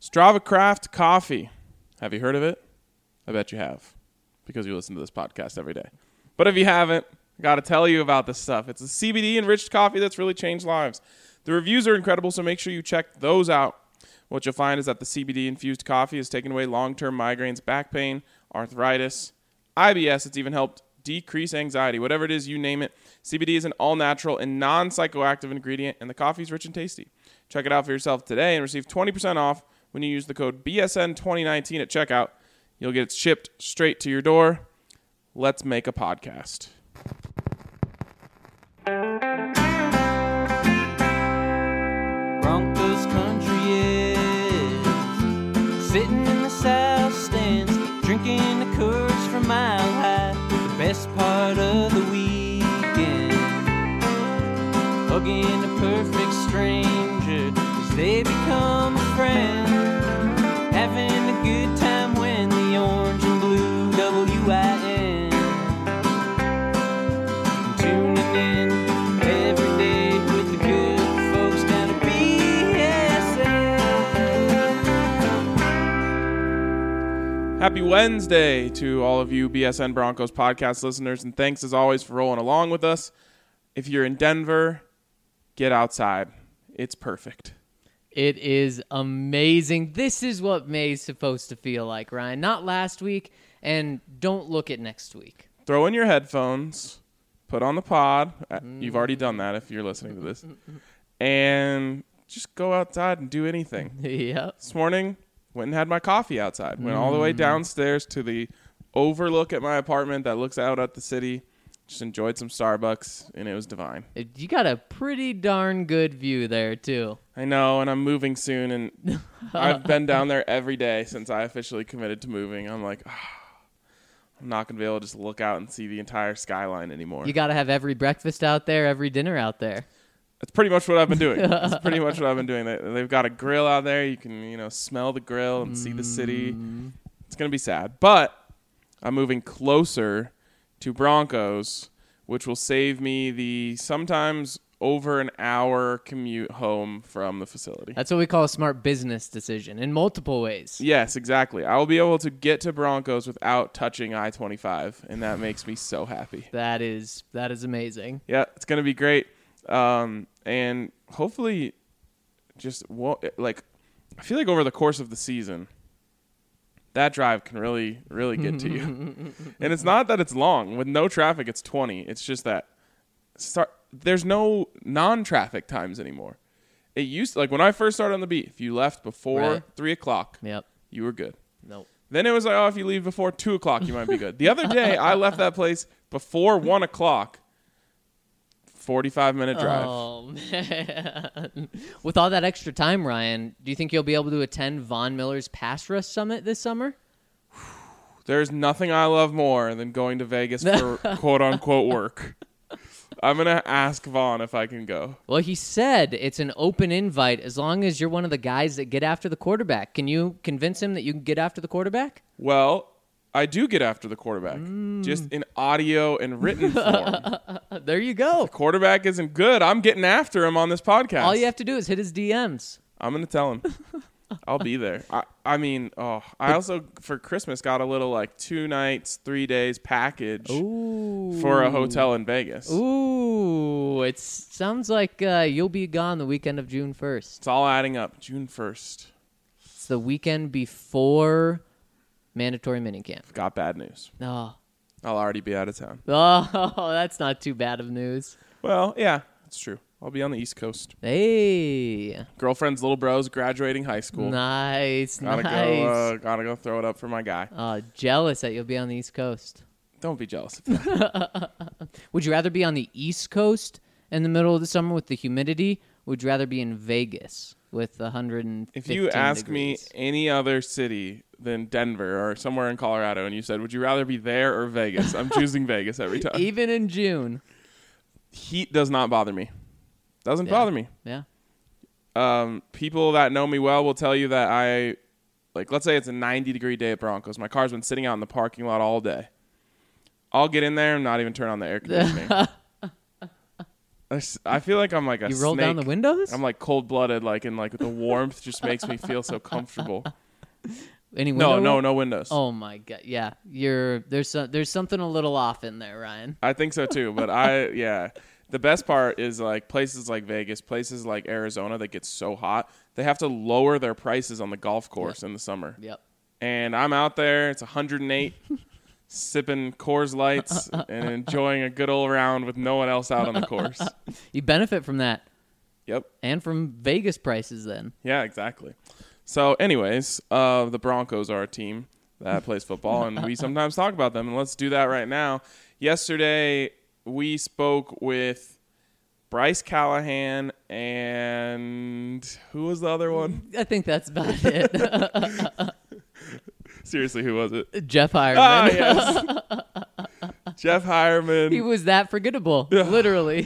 Strava Craft Coffee. Have you heard of it? I bet you have, because you listen to this podcast every day. But if you haven't, I got to tell you about this stuff. It's a CBD-enriched coffee that's really changed lives. The reviews are incredible, so make sure you check those out. What you'll find is that the CBD-infused coffee has taken away long-term migraines, back pain, arthritis, IBS. It's even helped decrease anxiety. Whatever it is, you name it. CBD is an all-natural and non-psychoactive ingredient, and the coffee is rich and tasty. Check it out for yourself today and receive 20% off when you use the code BSN2019 at checkout. You'll get it shipped straight to your door. Let's make a podcast. Broncos country is sitting in the south stands, drinking the Coors from Mile High. The best part of the weekend, hugging a perfect stranger as they become a friend, having a good time when the orange and blue WIN, tuning in every day with the good folks down at BSN. Happy Wednesday to all of you BSN Broncos podcast listeners, and thanks as always for rolling along with us. If you're in Denver, get outside. It's perfect. It is amazing. This is what May's supposed to feel like, Ryan. Not last week, and don't look at next week. Throw in your headphones, put on the pod. You've already done that if you're listening to this. And just go outside and do anything. Yep. This morning, went and had my coffee outside. Went all the way downstairs to the overlook at my apartment that looks out at the city. Just enjoyed some Starbucks, and it was divine. You got a pretty darn good view there, too. I know, and I'm moving soon, and I've been down there every day since I officially committed to moving. I'm like, I'm not going to be able to just look out and see the entire skyline anymore. You got to have every breakfast out there, every dinner out there. That's pretty much what I've been doing. They've got a grill out there. You can, smell the grill and see the city. It's going to be sad. But I'm moving closer to Broncos, which will save me the sometimes over an hour commute home from the facility. That's what we call a smart business decision in multiple ways. Yes, exactly. I will be able to get to Broncos without touching I-25, and that makes me so happy. That is amazing. Yeah, it's going to be great. And hopefully I feel like over the course of the season, that drive can really, really get to you. And it's not that it's long. With no traffic, it's 20. It's just that there's no non-traffic times anymore. It used to, like when I first started on the beat, if you left before 3 o'clock, Yep. you were good. Nope. Then it was like, if you leave before 2 o'clock, you might be good. The other day, I left that place before 1 o'clock. 45-minute drive. Oh, man. With all that extra time, Ryan, do you think you'll be able to attend Von Miller's Pass Rush Summit this summer? There's nothing I love more than going to Vegas for quote-unquote work. I'm going to ask Vaughn if I can go. Well, he said it's an open invite as long as you're one of the guys that get after the quarterback. Can you convince him that you can get after the quarterback? Well, I do get after the quarterback, just in audio and written form. There you go. The quarterback isn't good. I'm getting after him on this podcast. All you have to do is hit his DMs. I'm going to tell him. I'll be there. I also, for Christmas, got a little 2 nights, 3 days package for a hotel in Vegas. Ooh, it sounds like you'll be gone the weekend of June 1st. It's all adding up. June 1st. It's the weekend before mandatory minicamp. Got bad news. Oh. I'll already be out of town. Oh, that's not too bad of news. Well, yeah, it's true. I'll be on the East Coast. Hey. Girlfriend's little bro's graduating high school. Nice. Gotta go throw it up for my guy. Jealous that you'll be on the East Coast. Don't be jealous of that. Would you rather be on the East Coast in the middle of the summer with the humidity? Or would you rather be in Vegas with 115 If you ask degrees? me any other city than Denver or somewhere in Colorado and you said, would you rather be there or Vegas? I'm choosing Vegas every time. Even in June. Heat does not bother me. Doesn't bother me. Yeah. People that know me well will tell you that let's say it's a 90-degree day at Broncos. My car's been sitting out in the parking lot all day. I'll get in there and not even turn on the air conditioning. I feel like I'm like a You roll down the snake. windows? I'm like cold-blooded, like, and like the warmth just makes me feel so comfortable. Any window? No windows. Oh my god, yeah. There's something a little off in there, Ryan. I think so too, but the best part is like places like Vegas, places like Arizona that get so hot, they have to lower their prices on the golf course in the summer. Yep. And I'm out there, it's 108, sipping Coors Lights and enjoying a good old round with no one else out on the course. You benefit from that. Yep. And from Vegas prices then. Yeah, exactly. So anyways, the Broncos are a team that plays football, and we sometimes talk about them, and let's do that right now. Yesterday, we spoke with Bryce Callahan and who was the other one? I think that's about it. Seriously, who was it? Jeff Hireman. Ah, yes. Jeff Hireman. He was that forgettable, literally.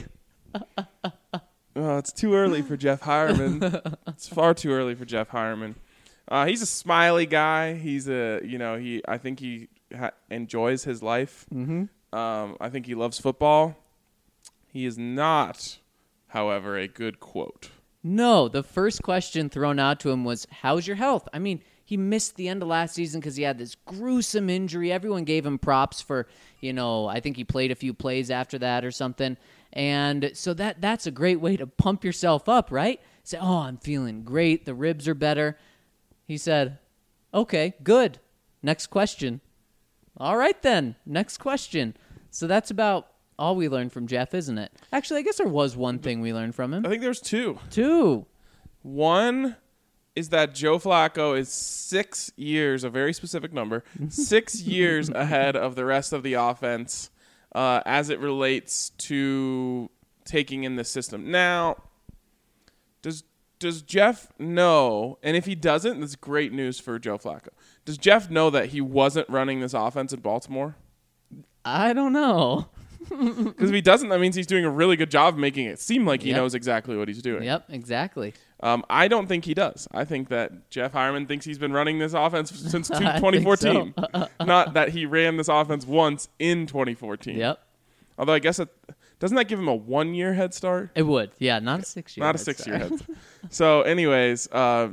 Oh, it's too early for Jeff Hireman. It's far too early for Jeff Hireman. He's a smiley guy. He's I think he enjoys his life. Mm-hmm. I think he loves football. He is not, however, a good quote. No, the first question thrown out to him was, how's your health? I mean, he missed the end of last season because he had this gruesome injury. Everyone gave him props for, I think he played a few plays after that or something. And so that's a great way to pump yourself up, right? Say, oh, I'm feeling great. The ribs are better. He said, okay, good. Next question. All right, then. Next question. So that's about all we learned from Jeff, isn't it? Actually, I guess there was one thing we learned from him. I think there's two. Two. One is that Joe Flacco is 6 years, a very specific number, 6 years ahead of the rest of the offense as it relates to taking in the system. Now, does Jeff know, and if he doesn't, that's great news for Joe Flacco. Does Jeff know that he wasn't running this offense in Baltimore? I don't know. Because if he doesn't, that means he's doing a really good job of making it seem like he knows exactly what he's doing. Yep, exactly. I don't think he does. I think that Jeff Hireman thinks he's been running this offense since 2014. So. Not that he ran this offense once in 2014. Yep. Although I guess doesn't that give him a 1-year head start? It would. Yeah, not a 6-year. Not a 6-year head start. So anyways,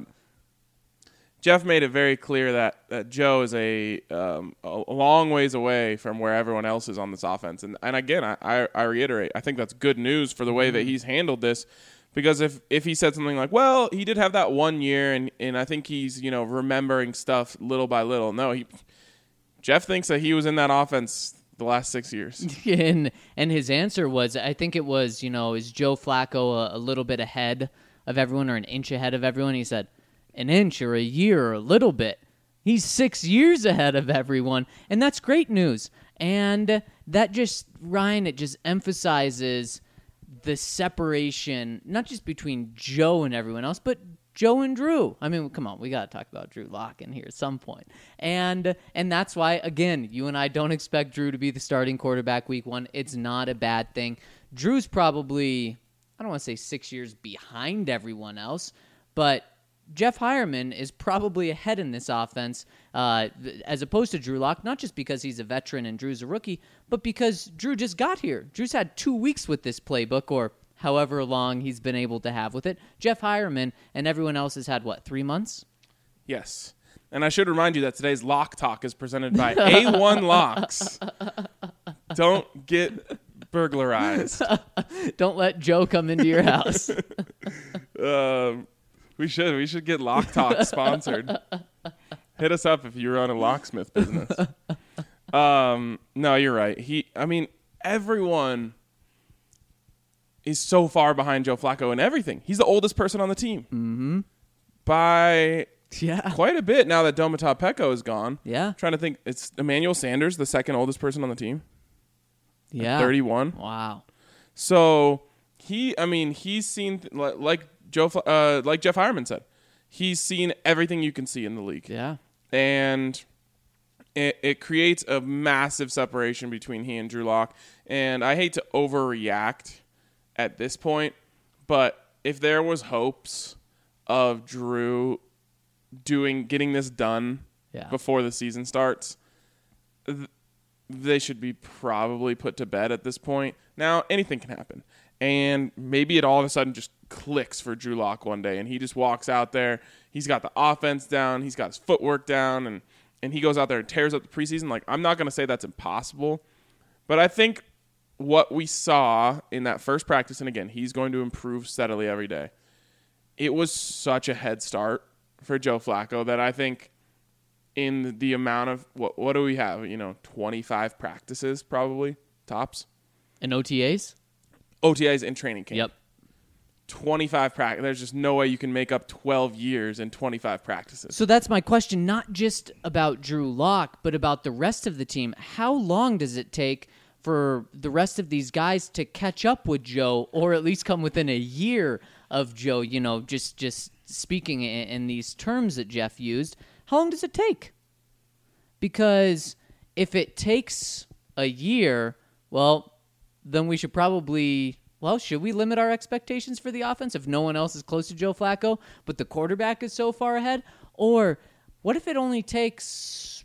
Jeff made it very clear that Joe is a long ways away from where everyone else is on this offense. And again, I reiterate, I think that's good news for the way that he's handled this. Because if he said something like, well, he did have that 1 year, and I think he's remembering stuff little by little. No, Jeff thinks that he was in that offense the last 6 years. And his answer was, I think it was, is Joe Flacco a little bit ahead of everyone or an inch ahead of everyone? He said, an inch or a year or a little bit. He's 6 years ahead of everyone, and that's great news. And that just, Ryan, it just emphasizes the separation, not just between Joe and everyone else, but Joe and Drew. I mean, come on, we got to talk about Drew Lock in here at some point. And that's why, again, you and I don't expect Drew to be the starting quarterback week 1. It's not a bad thing. Drew's probably, I don't want to say 6 years behind everyone else, but Jeff Hireman is probably ahead in this offense as opposed to Drew Lock, not just because he's a veteran and Drew's a rookie, but because Drew just got here. Drew's had 2 weeks with this playbook, or however long he's been able to have with it. Jeff Hireman and everyone else has had, 3 months? Yes. And I should remind you that today's Lock Talk is presented by A1 Locks. Don't get burglarized. Don't let Joe come into your house. We should get Lock Talk sponsored. Hit us up if you run a locksmith business. No, you're right. Everyone is so far behind Joe Flacco in everything. He's the oldest person on the team. Mm-hmm. By quite a bit now that Domata Peko is gone. Yeah. I'm trying to think. It's Emmanuel Sanders, the second oldest person on the team. Yeah. 31. Wow. So he's seen like Jeff Hireman said, he's seen everything you can see in the league. Yeah. And it creates a massive separation between he and Drew Lock. And I hate to overreact at this point, but if there was hopes of Drew getting this done before the season starts, they should be probably put to bed at this point. Now, anything can happen. And maybe it all of a sudden just clicks for Drew Lock one day, and he just walks out there. He's got the offense down. He's got his footwork down, and he goes out there and tears up the preseason. Like, I'm not going to say that's impossible, but I think what we saw in that first practice, and again, he's going to improve steadily every day, it was such a head start for Joe Flacco that I think in the amount of, what do we have? 25 practices probably, tops. And OTAs? OTAs in training camp. Yep. 25 practice. There's just no way you can make up 12 years in 25 practices. So that's my question, not just about Drew Lock, but about the rest of the team. How long does it take for the rest of these guys to catch up with Joe, or at least come within a year of Joe? Just speaking in these terms that Jeff used, how long does it take? Because if it takes a year, well, then we should probably, should we limit our expectations for the offense if no one else is close to Joe Flacco, but the quarterback is so far ahead? Or what if it only takes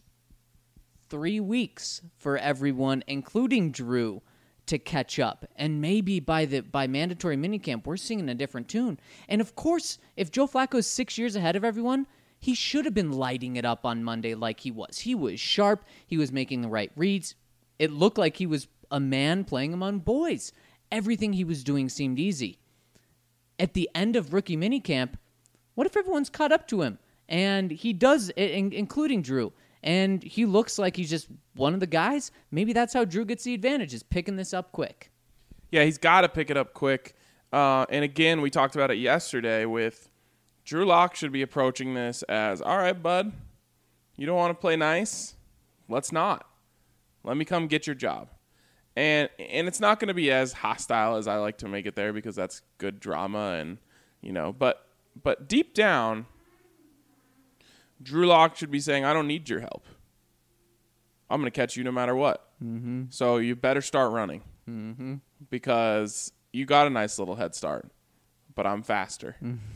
3 weeks for everyone, including Drew, to catch up? And maybe by mandatory minicamp, we're singing a different tune. And of course, if Joe Flacco's 6 years ahead of everyone, he should have been lighting it up on Monday like he was. He was sharp. He was making the right reads. It looked like he was a man playing among boys. Everything he was doing seemed easy. At the end of rookie minicamp, what if everyone's caught up to him? And he does, including Drew. And he looks like he's just one of the guys. Maybe that's how Drew gets the advantage, is picking this up quick. Yeah, he's got to pick it up quick. And again, we talked about it yesterday with Drew Lock should be approaching this as, all right, bud, you don't want to play nice? Let's not. Let me come get your job. And it's not going to be as hostile as I like to make it there, because that's good drama, and but deep down, Drew Lock should be saying, I don't need your help. I'm going to catch you no matter what. Mm-hmm. So you better start running, because you got a nice little head start, but I'm faster.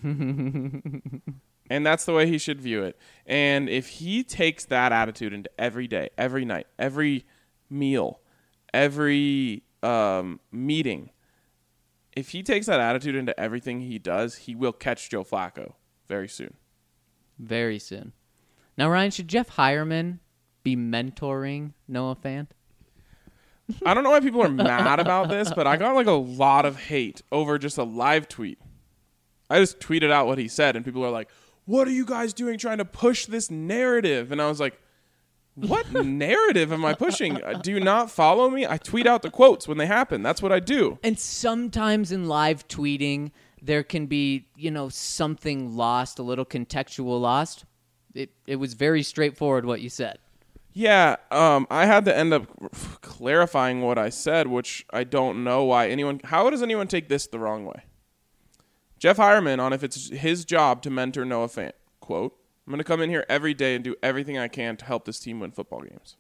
And that's the way he should view it. And if he takes that attitude into every day, every night, every meal, every meeting, if he takes that attitude into everything he does, he will catch Joe Flacco very soon. Very soon. Now, Ryan, should Jeff Hireman be mentoring Noah Fant? I don't know why people are mad about this, but I got like a lot of hate over just a live tweet. I just tweeted out what he said, and people are like, what are you guys doing trying to push this narrative? And I was like, what narrative am I pushing? Do you not follow me? I tweet out the quotes when they happen. That's what I do. And sometimes in live tweeting, there can be, something lost, a little contextual lost. It was very straightforward what you said. Yeah, I had to end up clarifying what I said, which I don't know why how does anyone take this the wrong way? Jeff Hireman, on if it's his job to mentor Noah Fant, quote, I'm going to come in here every day and do everything I can to help this team win football games.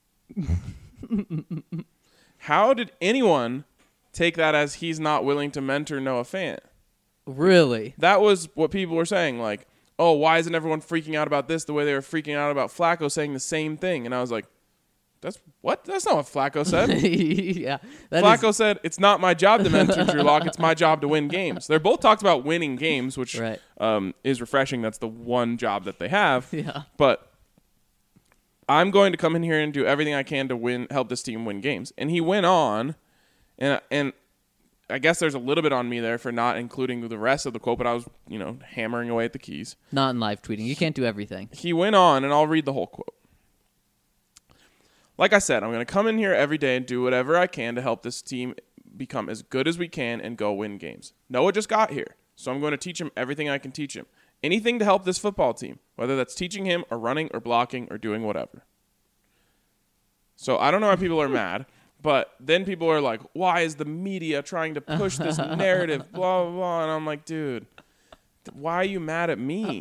How did anyone take that as he's not willing to mentor Noah Fant? Really? That was what people were saying, like, oh, why isn't everyone freaking out about this the way they were freaking out about Flacco saying the same thing? And I was like, That's not what Flacco said. Yeah. Flacco said, it's not my job to mentor Drew Lock. It's my job to win games. They're both talked about winning games, which is refreshing. That's the one job that they have. Yeah. But I'm going to come in here and do everything I can to help this team win games. And he went on, and I guess there's a little bit on me there for not including the rest of the quote, but I was, hammering away at the keys. Not in live tweeting. You can't do everything. He went on, and I'll read the whole quote. Like I said, I'm going to come in here every day and do whatever I can to help this team become as good as we can and go win games. Noah just got here, so I'm going to teach him everything I can teach him. Anything to help this football team, whether that's teaching him or running or blocking or doing whatever. So I don't know why people are mad, but then people are like, why is the media trying to push this narrative, blah, blah, blah. And I'm like, dude, why are you mad at me?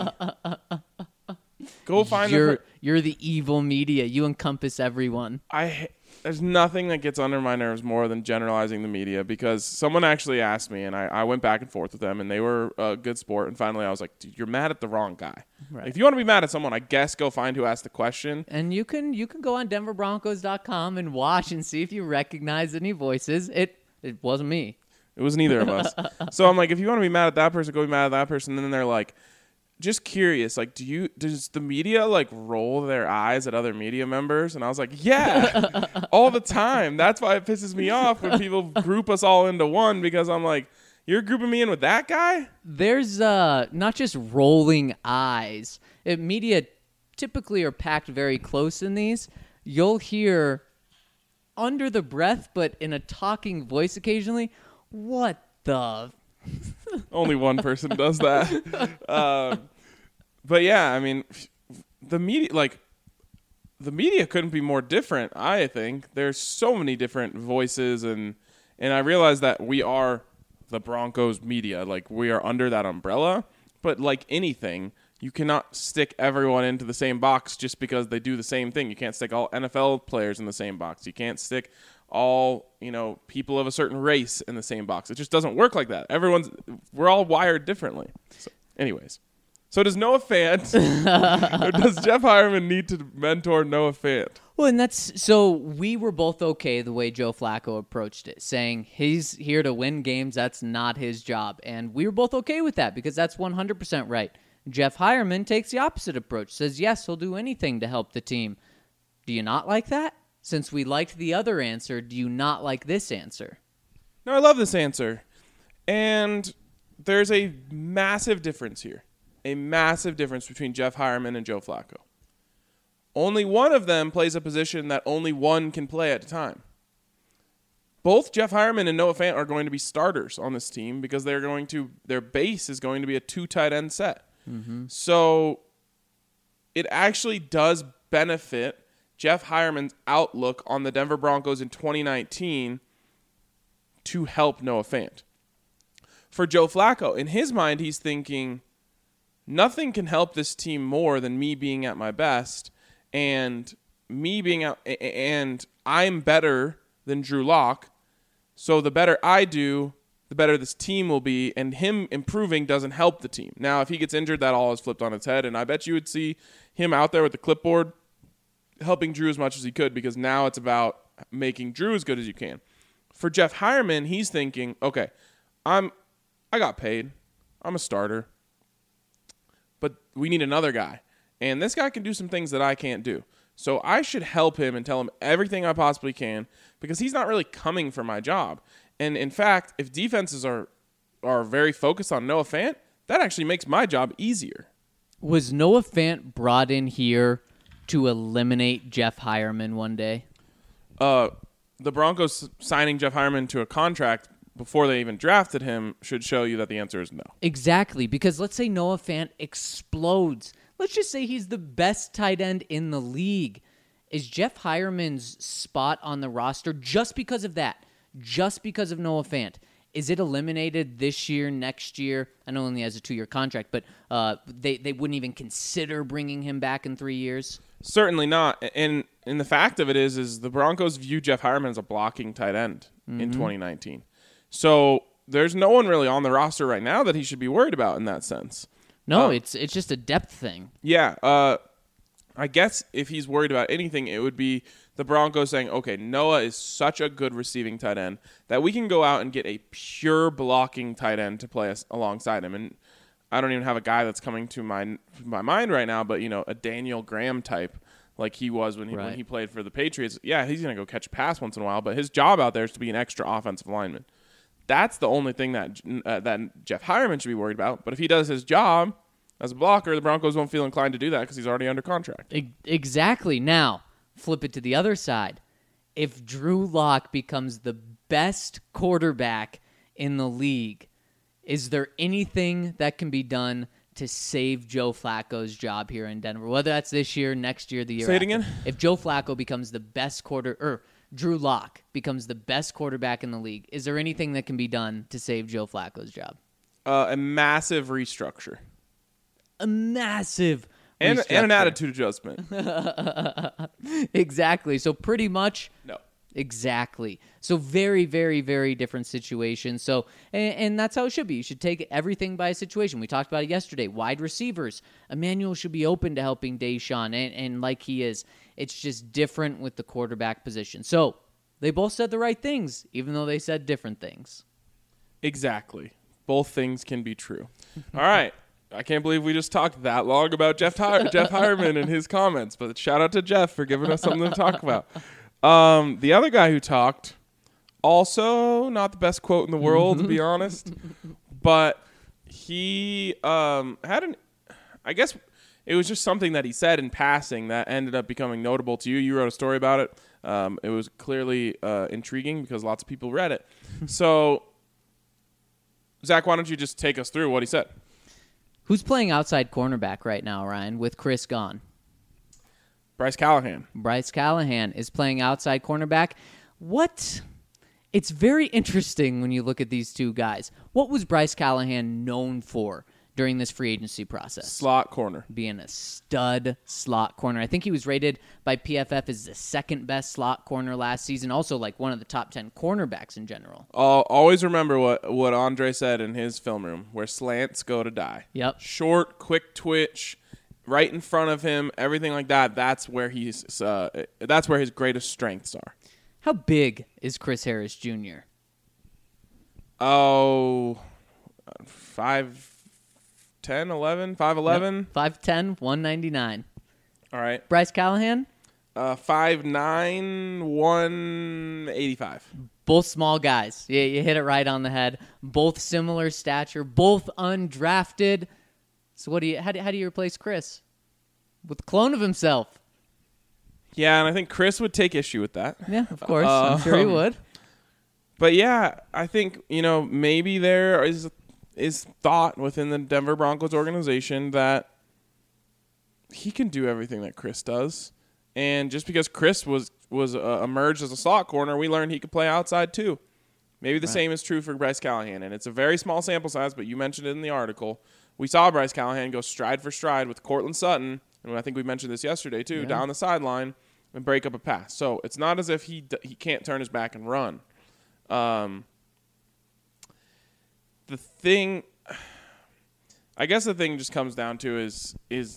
Go find You're the evil media. You encompass everyone. There's nothing that gets under my nerves more than generalizing the media, because someone actually asked me, and I went back and forth with them, and they were a good sport. And finally, I was like, dude, you're mad at the wrong guy. Right. If you want to be mad at someone, I guess go find who asked the question. And you can go on DenverBroncos.com and watch and see if you recognize any voices. It wasn't me. It was neither of us. So I'm like, if you want to be mad at that person, go be mad at that person. And then they're like, just curious, like, does the media like roll their eyes at other media members? And I was like, yeah, all the time. That's why it pisses me off when people group us all into one, because I'm like, you're grouping me in with that guy? There's not just rolling eyes. Media typically are packed very close in these. You'll hear under the breath, but in a talking voice occasionally, what the... Only one person does that. But yeah, I mean, the media couldn't be more different. I think there's so many different voices, and I realize that we are the Broncos media, like we are under that umbrella. But like anything, you cannot stick everyone into the same box just because they do the same thing. You can't stick all NFL players in the same box. You can't stick all, people of a certain race in the same box. It just doesn't work like that. We're all wired differently. So, anyways. So does Noah Fant, or does Jeff Hireman need to mentor Noah Fant? Well, and so we were both okay the way Joe Flacco approached it, saying he's here to win games. That's not his job. And we were both okay with that because that's 100% right. Jeff Hireman takes the opposite approach, says, yes, he'll do anything to help the team. Do you not like that? Since we liked the other answer, do you not like this answer? No, I love this answer. And there's a massive difference here. A massive difference between Jeff Hireman and Joe Flacco. Only one of them plays a position that only one can play at a time. Both Jeff Hireman and Noah Fant are going to be starters on this team because their base is going to be a 2 tight end set. Mm-hmm. So it actually does benefit Jeff Hireman's outlook on the Denver Broncos in 2019 to help Noah Fant. For Joe Flacco, in his mind, he's thinking, nothing can help this team more than me being at my best, and I'm better than Drew Lock. So the better I do, the better this team will be, and him improving doesn't help the team. Now, if he gets injured, that all is flipped on its head, and I bet you would see him out there with the clipboard helping Drew as much as he could, because now it's about making Drew as good as you can. For Jeff Hireman, he's thinking, okay, I got paid. I'm a starter. But we need another guy. And this guy can do some things that I can't do. So I should help him and tell him everything I possibly can, because he's not really coming for my job. And in fact, if defenses are very focused on Noah Fant, that actually makes my job easier. Was Noah Fant brought in here to eliminate Jeff Hireman one day? The Broncos signing Jeff Hireman to a contract before they even drafted him should show you that the answer is no. Exactly, because let's say Noah Fant explodes. Let's just say he's the best tight end in the league. Is Jeff Hireman's spot on the roster just because of that? Just because of Noah Fant? Is it eliminated this year, next year? I know he only has a 2-year contract, but they wouldn't even consider bringing him back in 3 years? Certainly not. And the fact of it is the Broncos view Jeff Hireman as a blocking tight end in 2019. So there's no one really on the roster right now that he should be worried about in that sense. No, it's just a depth thing. Yeah. I guess if he's worried about anything, it would be the Broncos saying, okay, Noah is such a good receiving tight end that we can go out and get a pure blocking tight end to play us alongside him. And I don't even have a guy that's coming to my mind right now, but, a Daniel Graham type like he was when he played for the Patriots. Yeah, he's going to go catch a pass once in a while, but his job out there is to be an extra offensive lineman. That's the only thing that Jeff Hireman should be worried about. But if he does his job as a blocker, the Broncos won't feel inclined to do that because he's already under contract. Exactly. Now, flip it to the other side. If Drew Lock becomes the best quarterback in the league, is there anything that can be done to save Joe Flacco's job here in Denver? Whether that's this year, next year, the year Say it after. again? If Joe Flacco becomes the best Drew Lock becomes the best quarterback in the league, is there anything that can be done to save Joe Flacco's job? A massive restructure. A massive and restructure. an attitude adjustment. Exactly. So pretty much No. Exactly. So very, very, very different situation. So, and that's how it should be. You should take everything by situation. We talked about it yesterday. Wide receivers. Emmanuel should be open to helping Deshaun, and like he is. It's just different with the quarterback position. So they both said the right things, even though they said different things. Exactly. Both things can be true. All right. I can't believe we just talked that long about Jeff Hireman and his comments, but shout out to Jeff for giving us something to talk about. The other guy who talked, also not the best quote in the world, to be honest, but he I guess it was just something that he said in passing that ended up becoming notable to you. You wrote a story about it. It was clearly intriguing because lots of people read it. So, Zach, why don't you just take us through what he said? Who's playing outside cornerback right now, Ryan, with Chris gone? Bryce Callahan. Bryce Callahan is playing outside cornerback. What? It's very interesting when you look at these two guys. What was Bryce Callahan known for during this free agency process? Slot corner. Being a stud slot corner. I think he was rated by PFF as the second best slot corner last season. Also, like one of the top 10 cornerbacks in general. Always remember what Andre said in his film room, where slants go to die. Yep. Short, quick twitch, right in front of him, everything like that. That's where that's where his greatest strengths are. How big is Chris Harris Jr.? 5'10", 11, 5'11". Yep. 5'10", 199. All right. Bryce Callahan? 5'9", 185. Both small guys. Yeah, you hit it right on the head. Both similar stature. Both undrafted. So how do you replace Chris? With a clone of himself. Yeah, and I think Chris would take issue with that. Yeah, of course. I'm sure he would. But yeah, I think, maybe there is thought within the Denver Broncos organization that he can do everything that Chris does. And just because Chris was emerged as a slot corner, we learned he could play outside too. Maybe the same is true for Bryce Callahan. And it's a very small sample size, but you mentioned it in the article. We saw Bryce Callahan go stride for stride with Cortland Sutton, and I think we mentioned this yesterday too, down the sideline and break up a pass. So it's not as if he can't turn his back and run. I guess the thing just comes down to is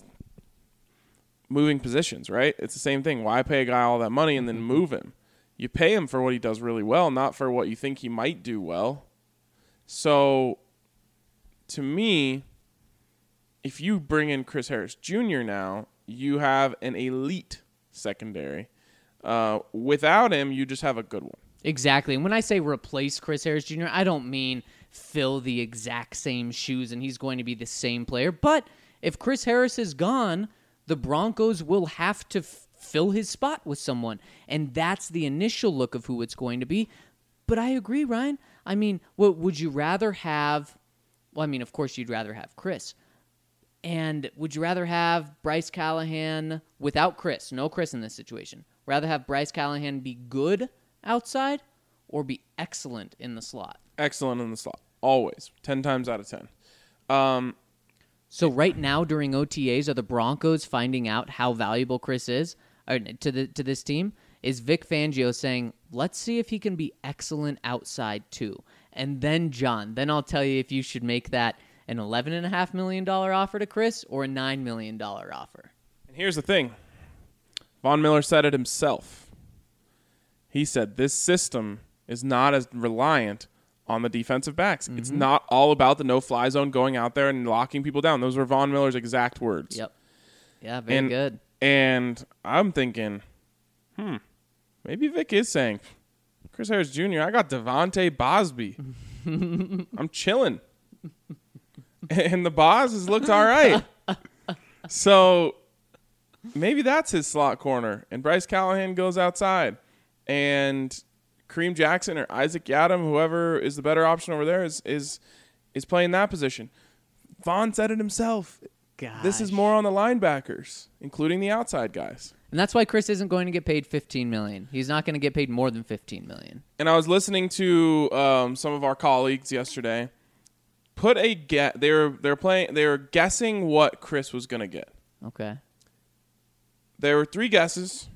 moving positions, right? It's the same thing. Why pay a guy all that money and then move him? You pay him for what he does really well, not for what you think he might do well. So, to me, if you bring in Chris Harris Jr. now, you have an elite secondary. Without him, you just have a good one. Exactly. And when I say replace Chris Harris Jr., I don't mean fill the exact same shoes and he's going to be the same player. But if Chris Harris is gone, the Broncos will have to fill his spot with someone. And that's the initial look of who it's going to be. But I agree, Ryan. I mean, what would you rather have? Well, I mean, of course, you'd rather have Chris. And would you rather have Bryce Callahan without Chris? No Chris in this situation. Rather have Bryce Callahan be good outside or be excellent in the slot? Excellent in the slot. Always. 10 times out of 10. So right now during OTAs, are the Broncos finding out how valuable Chris is to this team? Is Vic Fangio saying, let's see if he can be excellent outside too? And then, John, I'll tell you if you should make that an $11.5 million offer to Chris or a $9 million offer. And here's the thing. Von Miller said it himself. He said this system is not as reliant on the defensive backs. Mm-hmm. It's not all about the no-fly zone going out there and locking people down. Those were Von Miller's exact words. Yep. Yeah, very good. And I'm thinking, maybe Vic is saying, Chris Harris Jr., I got Devontae Bosby. I'm chilling. And the boss has looked all right. So maybe that's his slot corner. And Bryce Callahan goes outside. And Kareem Jackson or Isaac Yiadom, whoever is the better option over there, is playing that position. Vaughn said it himself. Gosh. This is more on the linebackers, including the outside guys. And that's why Chris isn't going to get paid $15 million. He's not going to get paid more than $15 million. And I was listening to some of our colleagues yesterday. They were guessing what Chris was going to get. Okay. There were 3 guesses.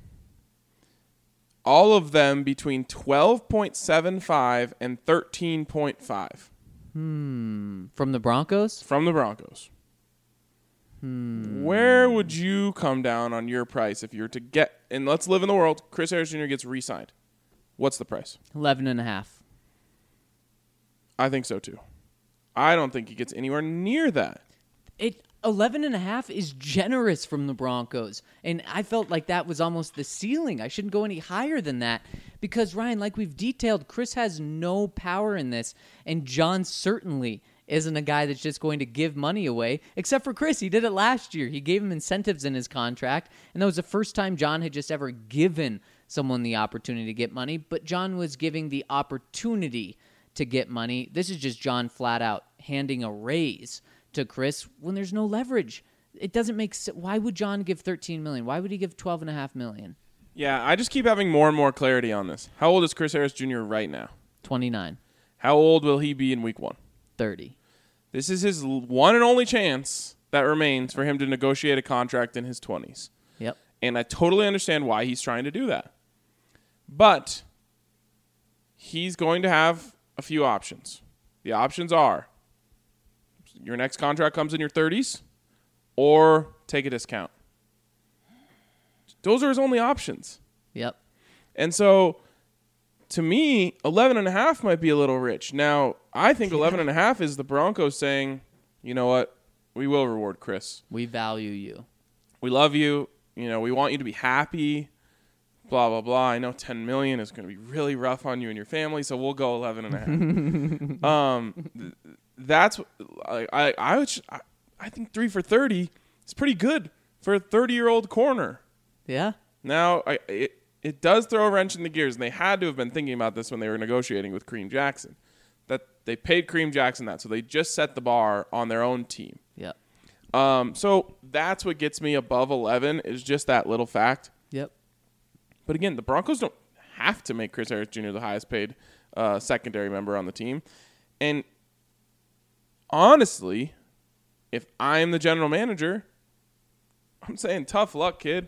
All of them between 12.75 and 13.5. From the Broncos? From the Broncos. Where would you come down on your price if you were to get, and let's live in the world, Chris Harris Jr. gets re-signed. What's the price? 11.5. I think so too. I don't think he gets anywhere near that. 11.5 is generous from the Broncos. And I felt like that was almost the ceiling. I shouldn't go any higher than that because, Ryan, like we've detailed, Chris has no power in this. And John certainly isn't a guy that's just going to give money away, except for Chris. He did it last year. He gave him incentives in his contract. And that was the first time John had just ever given someone the opportunity to get money. But John was giving the opportunity to get money. This is just John flat out handing a raise to Chris when there's no leverage. It doesn't make sense. Why would John give $13 million? Why would he give $12.5 million? Yeah, I just keep having more and more clarity on this. How old is Chris Harris Jr. right now? 29. How old will he be in week 1? 30. This is his one and only chance that remains for him to negotiate a contract in his 20s. Yep. And I totally understand why he's trying to do that. But he's going to have a few options. The options are your next contract comes in your 30s or take a discount. Those are his only options. Yep. And so, to me, 11.5 might be a little rich. Now, I think 11.5 is the Broncos saying, you know what, we will reward Chris. We value you. We love you. You know, we want you to be happy. Blah, blah, blah. I know $10 million is going to be really rough on you and your family, so we'll go 11.5. That's I think 3 for $30 is pretty good for a 30-year-old corner. Yeah. Now, it does throw a wrench in the gears, and they had to have been thinking about this when they were negotiating with Kareem Jackson, that they paid Kareem Jackson that, so they just set the bar on their own team. Yep. So that's what gets me above 11 is just that little fact. Yep. But again, the Broncos don't have to make Chris Harris Jr. the highest paid secondary member on the team. And honestly, if I'm the general manager, I'm saying tough luck, kid.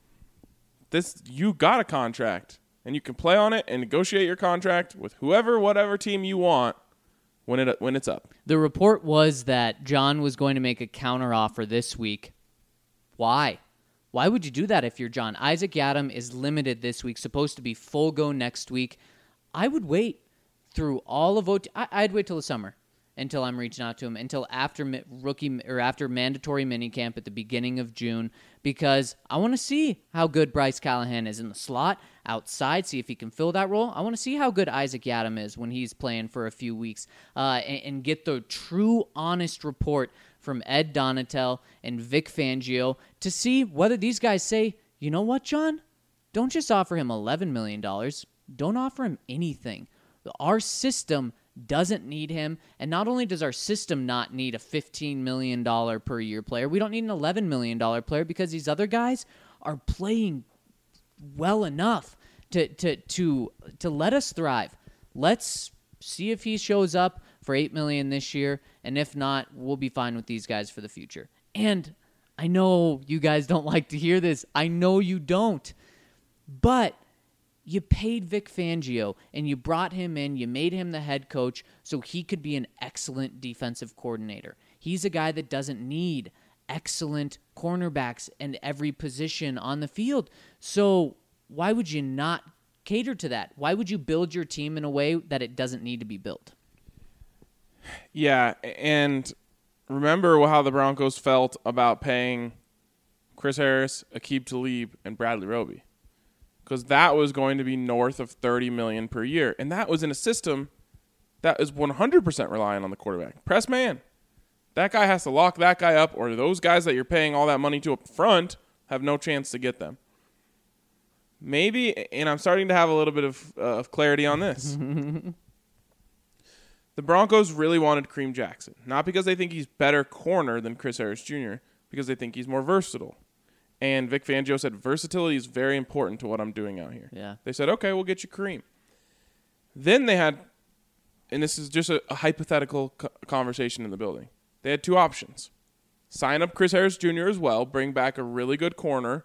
You got a contract, and you can play on it and negotiate your contract with whatever team you want when it's up. The report was that John was going to make a counteroffer this week. Why? Why would you do that if you're John? Isaac Yiadom is limited this week, supposed to be full go next week. I would wait through all of OT. I'd wait till the summer until I'm reaching out to him, until after after mandatory minicamp at the beginning of June, because I want to see how good Bryce Callahan is in the slot, outside, see if he can fill that role. I want to see how good Isaac Yiadom is when he's playing for a few weeks, and get the true, honest report from Ed Donatel and Vic Fangio to see whether these guys say, you know what, John? Don't just offer him $11 million. Don't offer him anything. Our system doesn't need him, and not only does our system not need a $15 million per year player, we don't need an $11 million player because these other guys are playing well enough to let us thrive. Let's see if he shows up for $8 million this year, and if not, we'll be fine with these guys for the future. And I know you guys don't like to hear this. I know you don't. But you paid Vic Fangio, and you brought him in, you made him the head coach so he could be an excellent defensive coordinator. He's a guy that doesn't need excellent cornerbacks in every position on the field. So why would you not cater to that? Why would you build your team in a way that it doesn't need to be built? Yeah, and remember how the Broncos felt about paying Chris Harris, Aqib Talib, and Bradley Roby. Because that was going to be north of $30 million per year. And that was in a system that is 100% reliant on the quarterback. Press man. That guy has to lock that guy up, or those guys that you're paying all that money to up front have no chance to get them. Maybe, and I'm starting to have a little bit of clarity on this. The Broncos really wanted Kareem Jackson. Not because they think he's better corner than Chris Harris Jr., because they think he's more versatile. And Vic Fangio said, versatility is very important to what I'm doing out here. Yeah. They said, okay, we'll get you Kareem. Then they had, and this is just a hypothetical conversation in the building, they had two options. Sign up Chris Harris Jr. as well, bring back a really good corner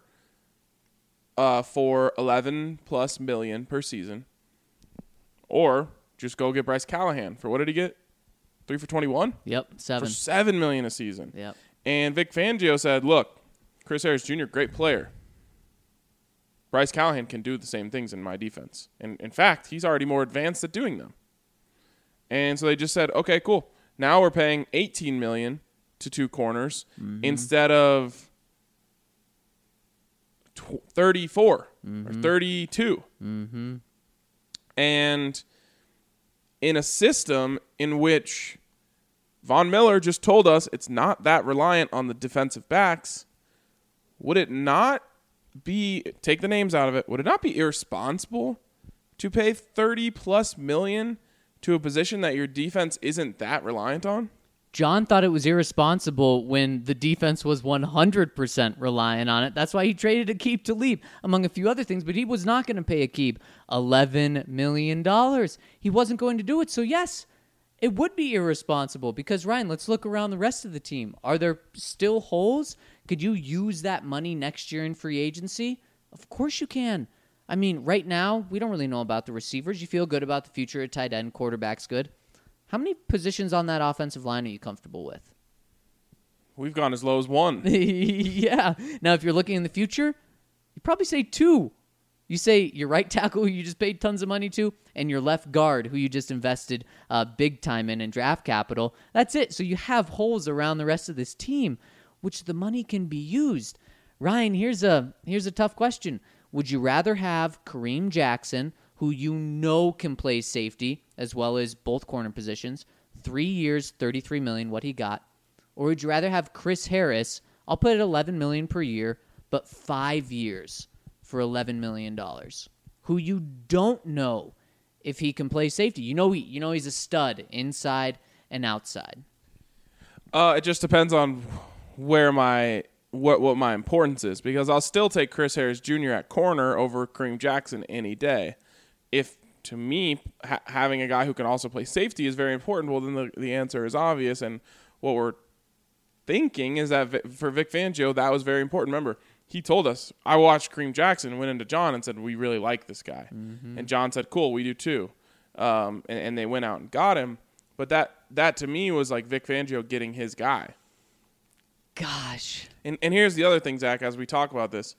for $11+ million per season, or just go get Bryce Callahan. For what did he get? 3 for 21? Yep, For $7 $7 million a season. Yep. And Vic Fangio said, look, Chris Harris Jr., great player. Bryce Callahan can do the same things in my defense. And in fact, he's already more advanced at doing them. And so they just said, okay, cool. Now we're paying $18 million to two corners instead of 34 or 32. And in a system in which Von Miller just told us it's not that reliant on the defensive backs, would it not be, take the names out of it, would it not be irresponsible to pay $30+ million to a position that your defense isn't that reliant on? John thought it was irresponsible when the defense was 100% reliant on it. That's why he traded Aqib Talib, among a few other things, but he was not going to pay Aqib $11 million. He wasn't going to do it. So, yes, it would be irresponsible because, Ryan, let's look around the rest of the team. Are there still holes? Could you use that money next year in free agency? Of course you can. I mean, right now, we don't really know about the receivers. You feel good about the future at tight end. Quarterback's good. How many positions on that offensive line are you comfortable with? We've gone as low as one. Yeah. Now, if you're looking in the future, you probably say two. You say your right tackle, who you just paid tons of money to, and your left guard, who you just invested big time in draft capital. That's it. So you have holes around the rest of this team, which the money can be used. Ryan, here's a tough question. Would you rather have Kareem Jackson, who you know can play safety as well as both corner positions, 3 years, $33 million, what he got, or would you rather have Chris Harris? I'll put it $11 million per year, but 5 years for $11 million, who you don't know if he can play safety. You know he's a stud inside and outside. It just depends on where what my importance is, because I'll still take Chris Harris Jr. at corner over Kareem Jackson any day. If, to me, having a guy who can also play safety is very important, well, then the answer is obvious. And what we're thinking is that for Vic Fangio, that was very important. Remember, he told us, I watched Kareem Jackson, went into John and said, we really like this guy. And John said, cool, we do too. And they went out and got him. But that to me was like Vic Fangio getting his guy. Gosh. And here's the other thing, Zach, as we talk about this.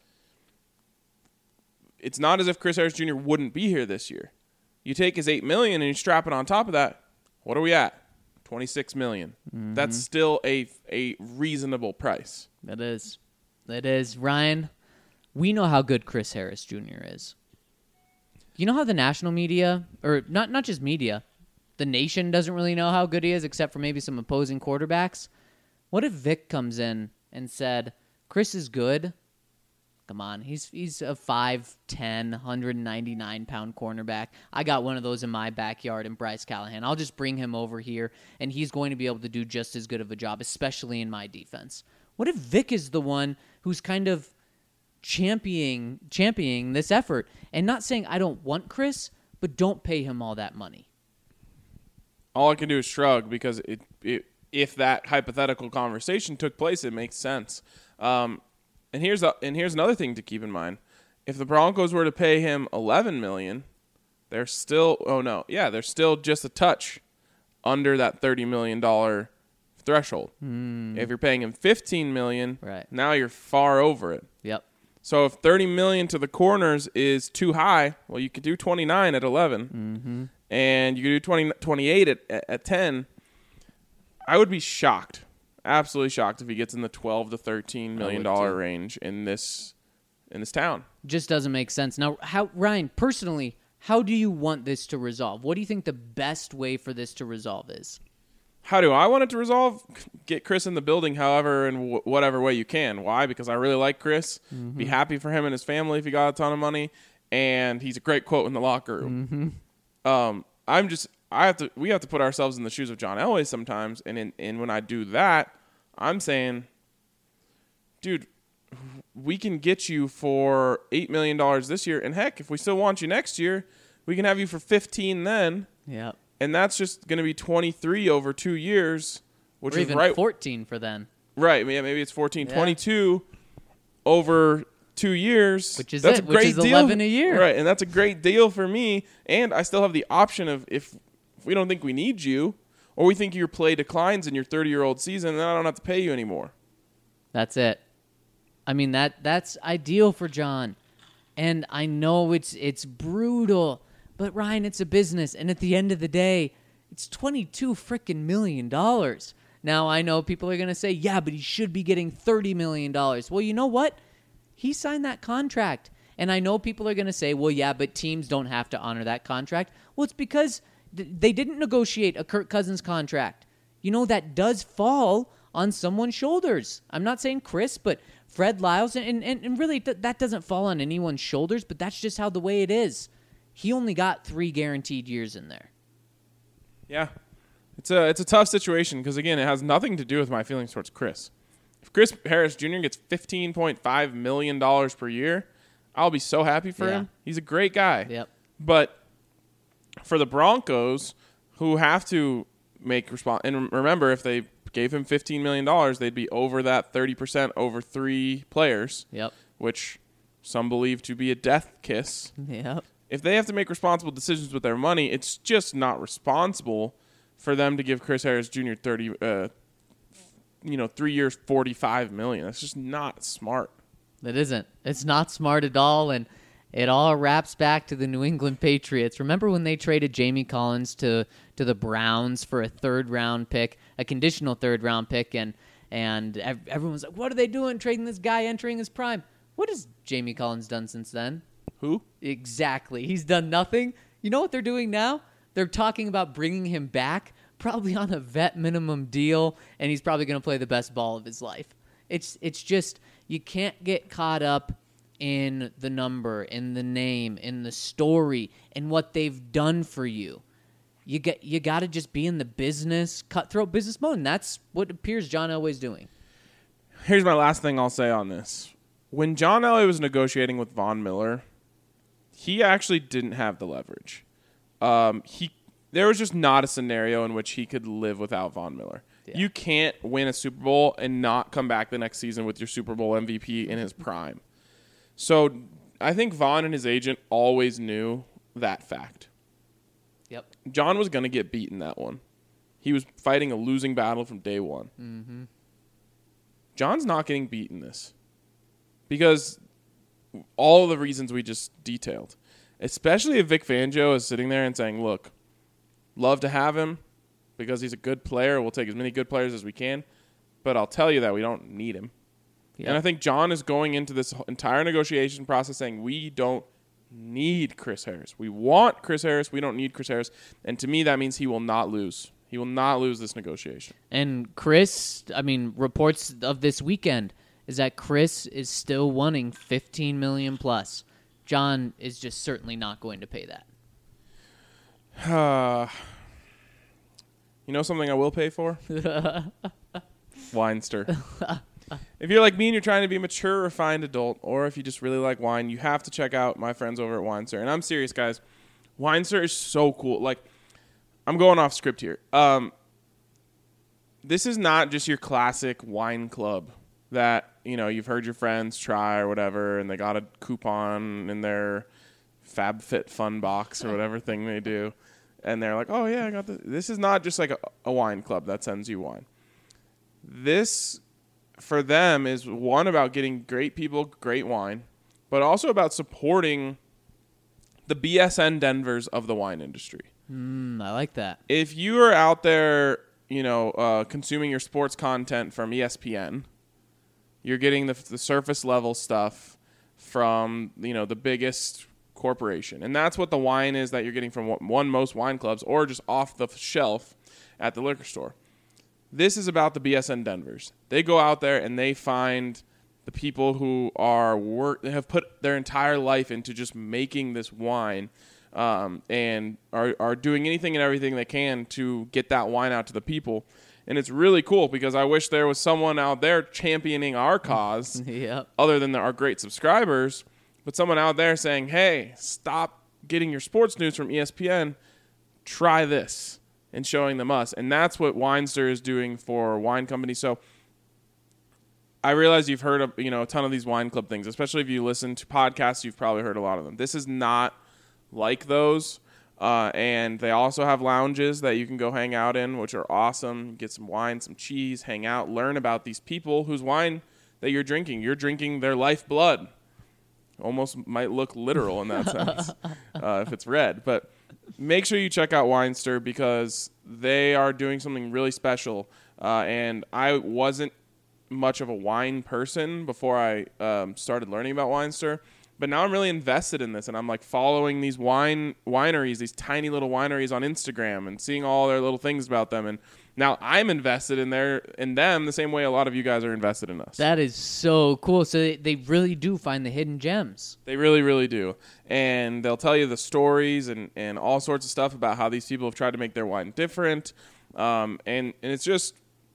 It's not as if Chris Harris Jr. wouldn't be here this year. You take his $8 million and you strap it on top of that. What are we at? $26 million. That's still a reasonable price. That is. Ryan, we know how good Chris Harris Jr. is. You know how the national media, or not just media, the nation doesn't really know how good he is except for maybe some opposing quarterbacks? What if Vic comes in and said, Chris is good? Come on, he's a 5'10", 199-pound cornerback. I got one of those in my backyard in Bryce Callahan. I'll just bring him over here, and he's going to be able to do just as good of a job, especially in my defense. What if Vic is the one who's kind of championing this effort and not saying, I don't want Chris, but don't pay him all that money? All I can do is shrug, because if that hypothetical conversation took place, it makes sense. And here's another thing to keep in mind. If the Broncos were to pay him $11 million, they're still just a touch under that $30 million threshold. If you're paying him $15 million, right, now you're far over it. Yep. So if $30 million to the corners is too high, well, you could do 29 at 11, and you could do 28 at 10. I would be shocked. Absolutely shocked if he gets in the $12 to $13 million range in this town. Just doesn't make sense. Now, Ryan, personally, how do you want this to resolve? What do you think the best way for this to resolve is? How do I want it to resolve? Get Chris in the building however and whatever way you can. Why? Because I really like Chris. Be happy for him and his family if he got a ton of money. And he's a great quote in the locker room. We have to put ourselves in the shoes of John Elway sometimes, and when I do that, I'm saying, dude, we can get you for $8 million this year, and heck, if we still want you next year, we can have you for 15 then. Yeah. And that's just going to be 23 over 2 years, which or is even right 14 for then. Right, yeah, maybe it's 14, Yeah. 22 over 2 years. Which is that's it, a great which is deal. 11 a year. Right, and that's a great deal for me, and I still have the option of if we don't think we need you, or we think your play declines in your 30-year-old season, then I don't have to pay you anymore. That's it. I mean, that's ideal for John. And I know it's brutal, but Ryan, it's a business. And at the end of the day, It's $22 freaking million. Now, I know people are going to say, yeah, but he should be getting $30 million. Well, you know what? He signed that contract. And I know people are going to say, well, yeah, but teams don't have to honor that contract. Well, it's because they didn't negotiate a Kirk Cousins contract. You know, that does fall on someone's shoulders. I'm not saying Chris, but Fred Lyles, and really that doesn't fall on anyone's shoulders, but that's just how the way it is. He only got 3 guaranteed years in there. Yeah. It's a tough situation because, again, it has nothing to do with my feelings towards Chris. If Chris Harris Jr. gets $15.5 million per year, I'll be so happy for him. He's a great guy. Yep. But for the Broncos, who have to make response, and remember, if they gave him $15 million, they'd be over that 30% over 3 players, Yep. which some believe to be a death kiss. Yep. If they have to make responsible decisions with their money, it's just not responsible for them to give Chris Harris Jr. 3 years, $45 million. That's just not smart. It isn't. It's not smart at all, and it all wraps back to the New England Patriots. Remember when they traded Jamie Collins to the Browns for a 3rd-round pick, a conditional 3rd-round pick, and everyone's like, what are they doing trading this guy entering his prime? What has Jamie Collins done since then? Who? Exactly. He's done nothing. You know what they're doing now? They're talking about bringing him back, probably on a vet minimum deal, and he's probably going to play the best ball of his life. It's just, you can't get caught up in the number, in the name, in the story, in what they've done for you. You got to just be in the business, cutthroat business mode, and that's what appears John Elway's doing. Here's my last thing I'll say on this. When John Elway was negotiating with Von Miller, he actually didn't have the leverage. There was just not a scenario in which he could live without Von Miller. Yeah. You can't win a Super Bowl and not come back the next season with your Super Bowl MVP in his prime. So I think Von and his agent always knew that fact. Yep. John was going to get beaten that one. He was fighting a losing battle from day one. Mm-hmm. John's not getting beaten this because all of the reasons we just detailed, especially if Vic Fangio is sitting there and saying, look, love to have him because he's a good player. We'll take as many good players as we can, but I'll tell you that we don't need him. Yep. And I think John is going into this entire negotiation process saying we don't need Chris Harris. We want Chris Harris. We don't need Chris Harris. And to me, that means he will not lose. He will not lose this negotiation. And Chris, reports of this weekend is that Chris is still wanting $15 million plus. John is just certainly not going to pay that. You know something I will pay for? Weinster. If you're like me and you're trying to be a mature, refined adult, or if you just really like wine, you have to check out my friends over at Weinster. And I'm serious, guys. Weinster is so cool. Like, I'm going off script here. This is not just your classic wine club that, you've heard your friends try or whatever, and they got a coupon in their FabFitFun box or whatever thing they do. And they're like, oh, yeah, I got this. This is not just like a wine club that sends you wine. This, for them, is one about getting great people, great wine, but also about supporting the BSN Denvers of the wine industry. I like that. If you are out there, consuming your sports content from ESPN, you're getting the surface level stuff from, the biggest corporation. And that's what the wine is that you're getting from most wine clubs or just off the shelf at the liquor store. This is about the BSN Denvers. They go out there and they find the people who have put their entire life into just making this wine, and are doing anything and everything they can to get that wine out to the people. And it's really cool because I wish there was someone out there championing our cause Yep. other than our great subscribers, but someone out there saying, hey, stop getting your sports news from ESPN, try this, and showing them us. And that's what Weinster is doing for wine companies. So I realize you've heard of, a ton of these wine club things, especially if you listen to podcasts, you've probably heard a lot of them. This is not like those. And they also have lounges that you can go hang out in, which are awesome. Get some wine, some cheese, hang out, learn about these people whose wine that you're drinking. You're drinking their lifeblood. Almost might look literal in that sense if it's red. But make sure you check out Weinster because they are doing something really special. And I wasn't much of a wine person before I started learning about Weinster. But now I'm really invested in this, and I'm like following these wineries, these tiny little wineries on Instagram, and seeing all their little things about them. And now I'm invested in them the same way a lot of you guys are invested in us. That is so cool. So they really do find the hidden gems. They really, really do. And they'll tell you the stories and all sorts of stuff about how these people have tried to make their wine different. And it's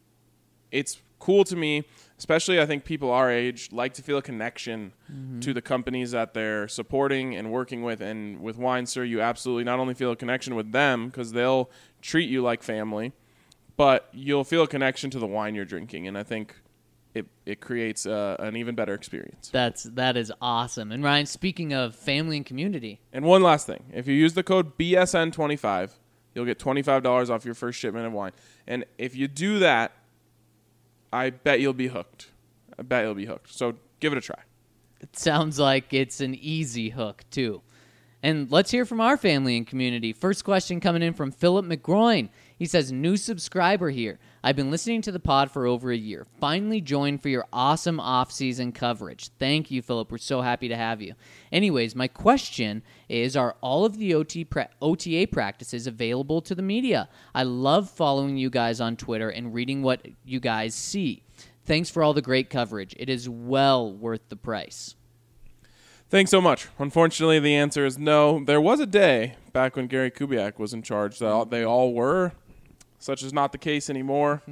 cool to me, especially I think people our age like to feel a connection to the companies that they're supporting and working with. And with Weinster, you absolutely not only feel a connection with them because they'll treat you like family, but you'll feel a connection to the wine you're drinking. And I think it creates an even better experience. That is awesome. And Ryan, speaking of family and community. And one last thing. If you use the code BSN25, you'll get $25 off your first shipment of wine. And if you do that, I bet you'll be hooked. So give it a try. It sounds like it's an easy hook, too. And let's hear from our family and community. First question coming in from Philip McGroin. He says, new subscriber here. I've been listening to the pod for over a year. Finally joined for your awesome off-season coverage. Thank you, Philip. We're so happy to have you. Anyways, my question is, are all of the OTA practices available to the media? I love following you guys on Twitter and reading what you guys see. Thanks for all the great coverage. It is well worth the price. Thanks so much. Unfortunately, the answer is no. There was a day back when Gary Kubiak was in charge that they all were. Such is not the case anymore.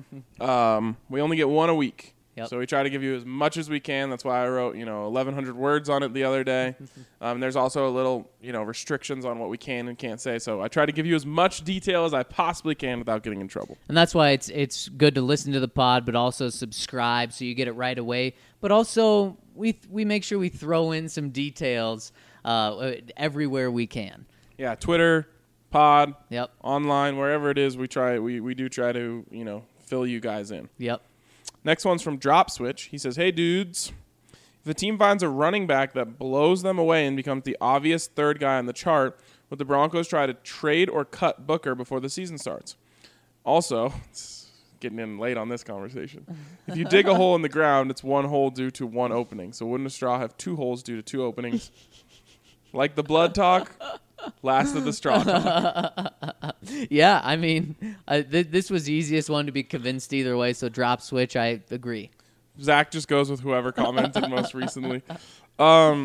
We only get one a week. Yep. So we try to give you as much as we can. That's why I wrote, 1,100 words on it the other day. There's also a little, restrictions on what we can and can't say. So I try to give you as much detail as I possibly can without getting in trouble. And that's why it's good to listen to the pod, but also subscribe so you get it right away. But also we make sure we throw in some details everywhere we can. Yeah, Twitter, pod, Yep. online, wherever it is, we do try to, fill you guys in. Yep. Next one's from Drop Switch. He says, hey, dudes, if the team finds a running back that blows them away and becomes the obvious third guy on the chart, would the Broncos try to trade or cut Booker before the season starts? Also, it's getting in late on this conversation. If you dig a hole in the ground, it's one hole due to one opening. So wouldn't a straw have two holes due to two openings? Like the blood talk, last of the straw talk. Yeah, I mean, this was the easiest one to be convinced either way, so Drop Switch, I agree. Zach just goes with whoever commented most recently. I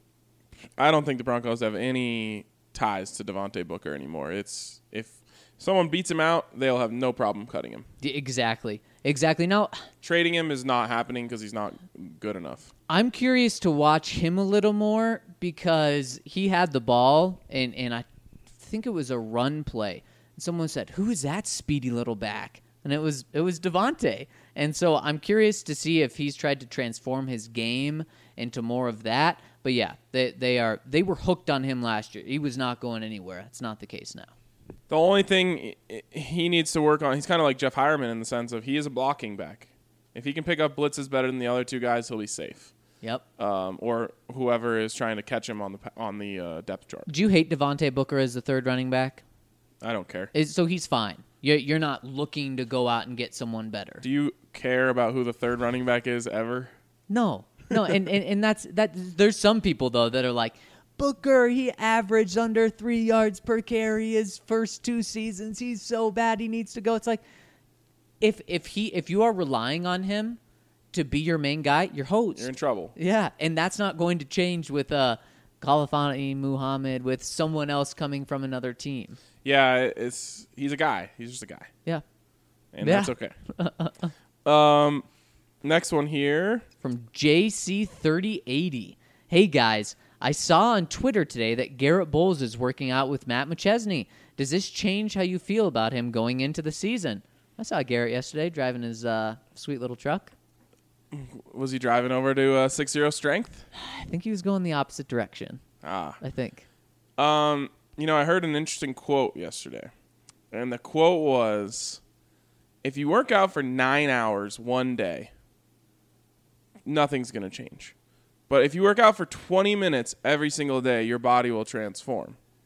don't think the Broncos have any ties to Devontae Booker anymore. If someone beats him out, they'll have no problem cutting him. Exactly. Now, Trading him is not happening because he's not good enough. I'm curious to watch him a little more because he had the ball, and I think it was a run play. And someone said, who is that speedy little back? And it was Devontae. And so I'm curious to see if he's tried to transform his game into more of that. But yeah, they were hooked on him last year. He was not going anywhere. That's not the case now. The only thing he needs to work on, he's kind of like Jeff Hireman in the sense of he is a blocking back. If he can pick up blitzes better than the other two guys, he'll be safe. Yep. Or whoever is trying to catch him on the depth chart. Do you hate Devontae Booker as the third running back? I don't care. So he's fine. You're not looking to go out and get someone better. Do you care about who the third running back is ever? No, and that's that. There's some people though that are like, Booker, he averaged under 3 yards per carry his first 2 seasons. He's so bad, he needs to go. It's like, if you are relying on him to be your main guy, you're hosed. You're in trouble. Yeah, and that's not going to change with Khalifani Muhammad, with someone else coming from another team. Yeah, he's a guy. He's just a guy. Yeah. And that's okay. Next one here. From JC3080. Hey, guys. I saw on Twitter today that Garrett Bowles is working out with Matt McChesney. Does this change how you feel about him going into the season? I saw Garrett yesterday driving his sweet little truck. Was he driving over to 6-0 strength? I think he was going the opposite direction. I think. I heard an interesting quote yesterday. And the quote was, if you work out for 9 hours one day, nothing's going to change. But if you work out for 20 minutes every single day, your body will transform.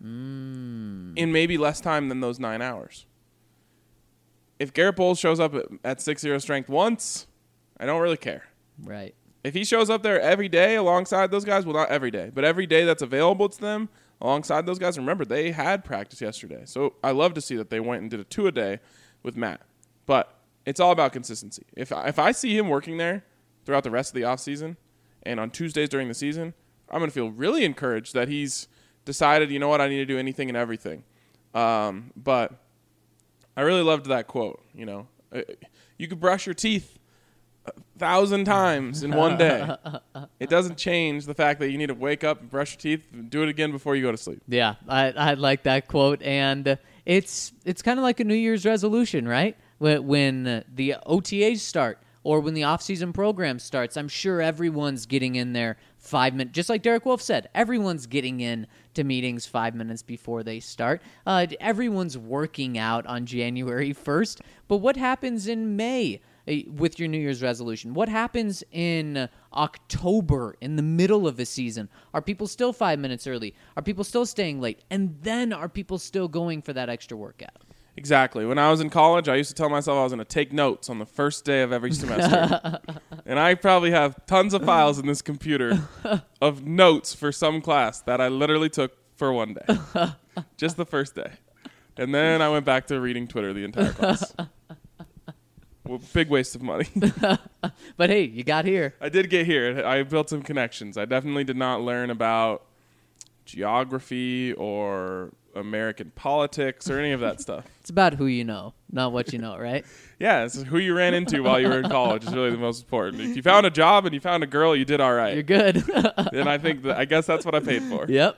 in maybe less time than those 9 hours. If Garrett Bowles shows up at 6'0" strength once, I don't really care. Right. If he shows up there every day alongside those guys, well, not every day, but every day that's available to them alongside those guys. Remember, they had practice yesterday. So I love to see that they went and did a 2-a-day with Matt. But it's all about consistency. If I see him working there throughout the rest of the offseason and on Tuesdays during the season, I'm going to feel really encouraged that he's decided, you know what, I need to do anything and everything. But I really loved that quote. You know, you could brush your teeth 1,000 times in one day. It doesn't change the fact that you need to wake up and brush your teeth and do it again before you go to sleep. Yeah, I like that quote, and it's kind of like a New Year's resolution, right? When the OTAs start or when the off-season program starts, I'm sure everyone's getting in there 5 minutes. Just like Derek Wolf said, everyone's getting in to meetings 5 minutes before they start. Everyone's working out on January 1st. But what happens in May with your New Year's resolution? What happens in October, in the middle of the season? Are people still 5 minutes early? Are people still staying late? And then are people still going for that extra workout? Exactly. When I was in college, I used to tell myself I was going to take notes on the first day of every semester. And I probably have tons of files in this computer of notes for some class that I literally took for one day. Just the first day. And then I went back to reading Twitter the entire class. Well, big waste of money. But hey, you got here. I did get here. I built some connections. I definitely did not learn about geography or American politics or any of that stuff. It's about who you know, not what you know, right? Yeah, it's who you ran into while you were in college is really the most important. If you found a job and you found a girl, you did all right. You're good. And I guess that's what I paid for. Yep.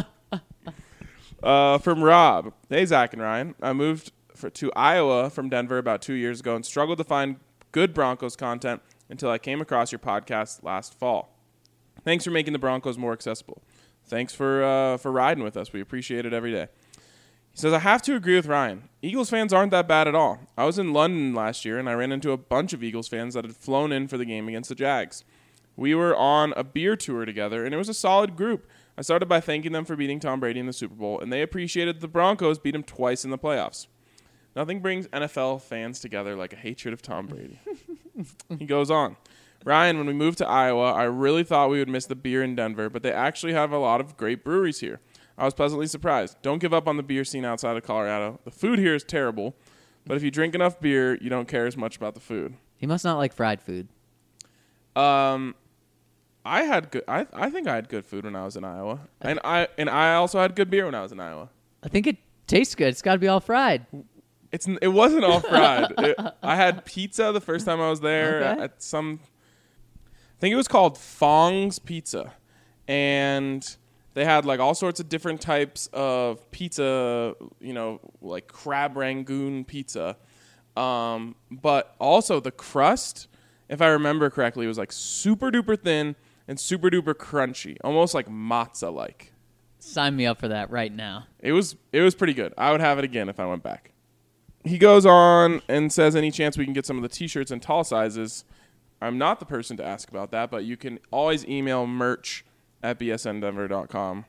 From Rob. Hey, Zach and Ryan. I moved to Iowa from Denver about 2 years ago and struggled to find good Broncos content until I came across your podcast last fall. Thanks for making the Broncos more accessible. Thanks for riding with us. We appreciate it every day. He says, I have to agree with Ryan. Eagles fans aren't that bad at all. I was in London last year, and I ran into a bunch of Eagles fans that had flown in for the game against the Jags. We were on a beer tour together, and it was a solid group. I started by thanking them for beating Tom Brady in the Super Bowl, and they appreciated the Broncos beat him twice in the playoffs. Nothing brings NFL fans together like a hatred of Tom Brady. He goes on. Ryan, when we moved to Iowa, I really thought we would miss the beer in Denver, but they actually have a lot of great breweries here. I was pleasantly surprised. Don't give up on the beer scene outside of Colorado. The food here is terrible, but if you drink enough beer, you don't care as much about the food. He must not like fried food. I think I had good food when I was in Iowa, and I also had good beer when I was in Iowa. I think it tastes good. It's got to be all fried. It wasn't all fried. I had pizza the first time I was there at some. I think it was called Fong's Pizza, and they had like all sorts of different types of pizza, like crab rangoon pizza, but also the crust, if I remember correctly, was like super duper thin and super duper crunchy, almost like matzah like. Sign me up for that right now. It was pretty good. I would have it again if I went back. He goes on and says, any chance we can get some of the T-shirts in tall sizes? I'm not the person to ask about that, but you can always email merch@bsndenver.com.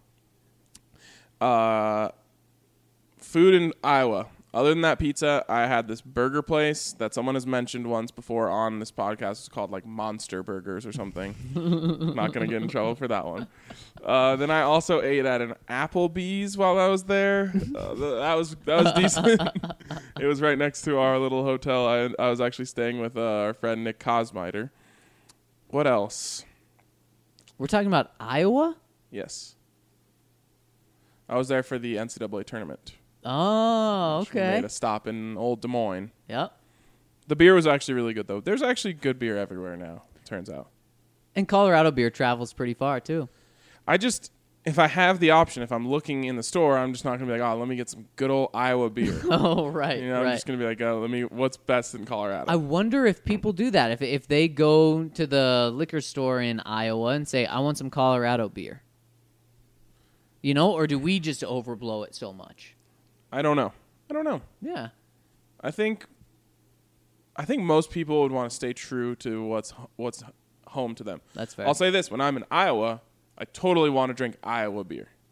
Food in Iowa. Other than that pizza, I had this burger place that someone has mentioned once before on this podcast. It's called like Monster Burgers or something. Not going to get in trouble for that one. Then I also ate at an Applebee's while I was there. That was decent. It was right next to our little hotel. I was actually staying with our friend Nick Kosmiter. What else? We're talking about Iowa? Yes. I was there for the NCAA tournament. Oh, okay. We made a stop in Old Des Moines. Yep. The beer was actually really good, though. There's actually good beer everywhere now, it turns out. And Colorado beer travels pretty far, too. If I have the option, if I'm looking in the store, I'm just not going to be like, let me get some good old Iowa beer. Oh, right. I'm just going to be like, what's best in Colorado? I wonder if people do that. If they go to the liquor store in Iowa and say, I want some Colorado beer. Or do we just overblow it so much? I don't know. Yeah. I think most people would want to stay true to what's home to them. That's fair. I'll say this. When I'm in Iowa, I totally want to drink Iowa beer.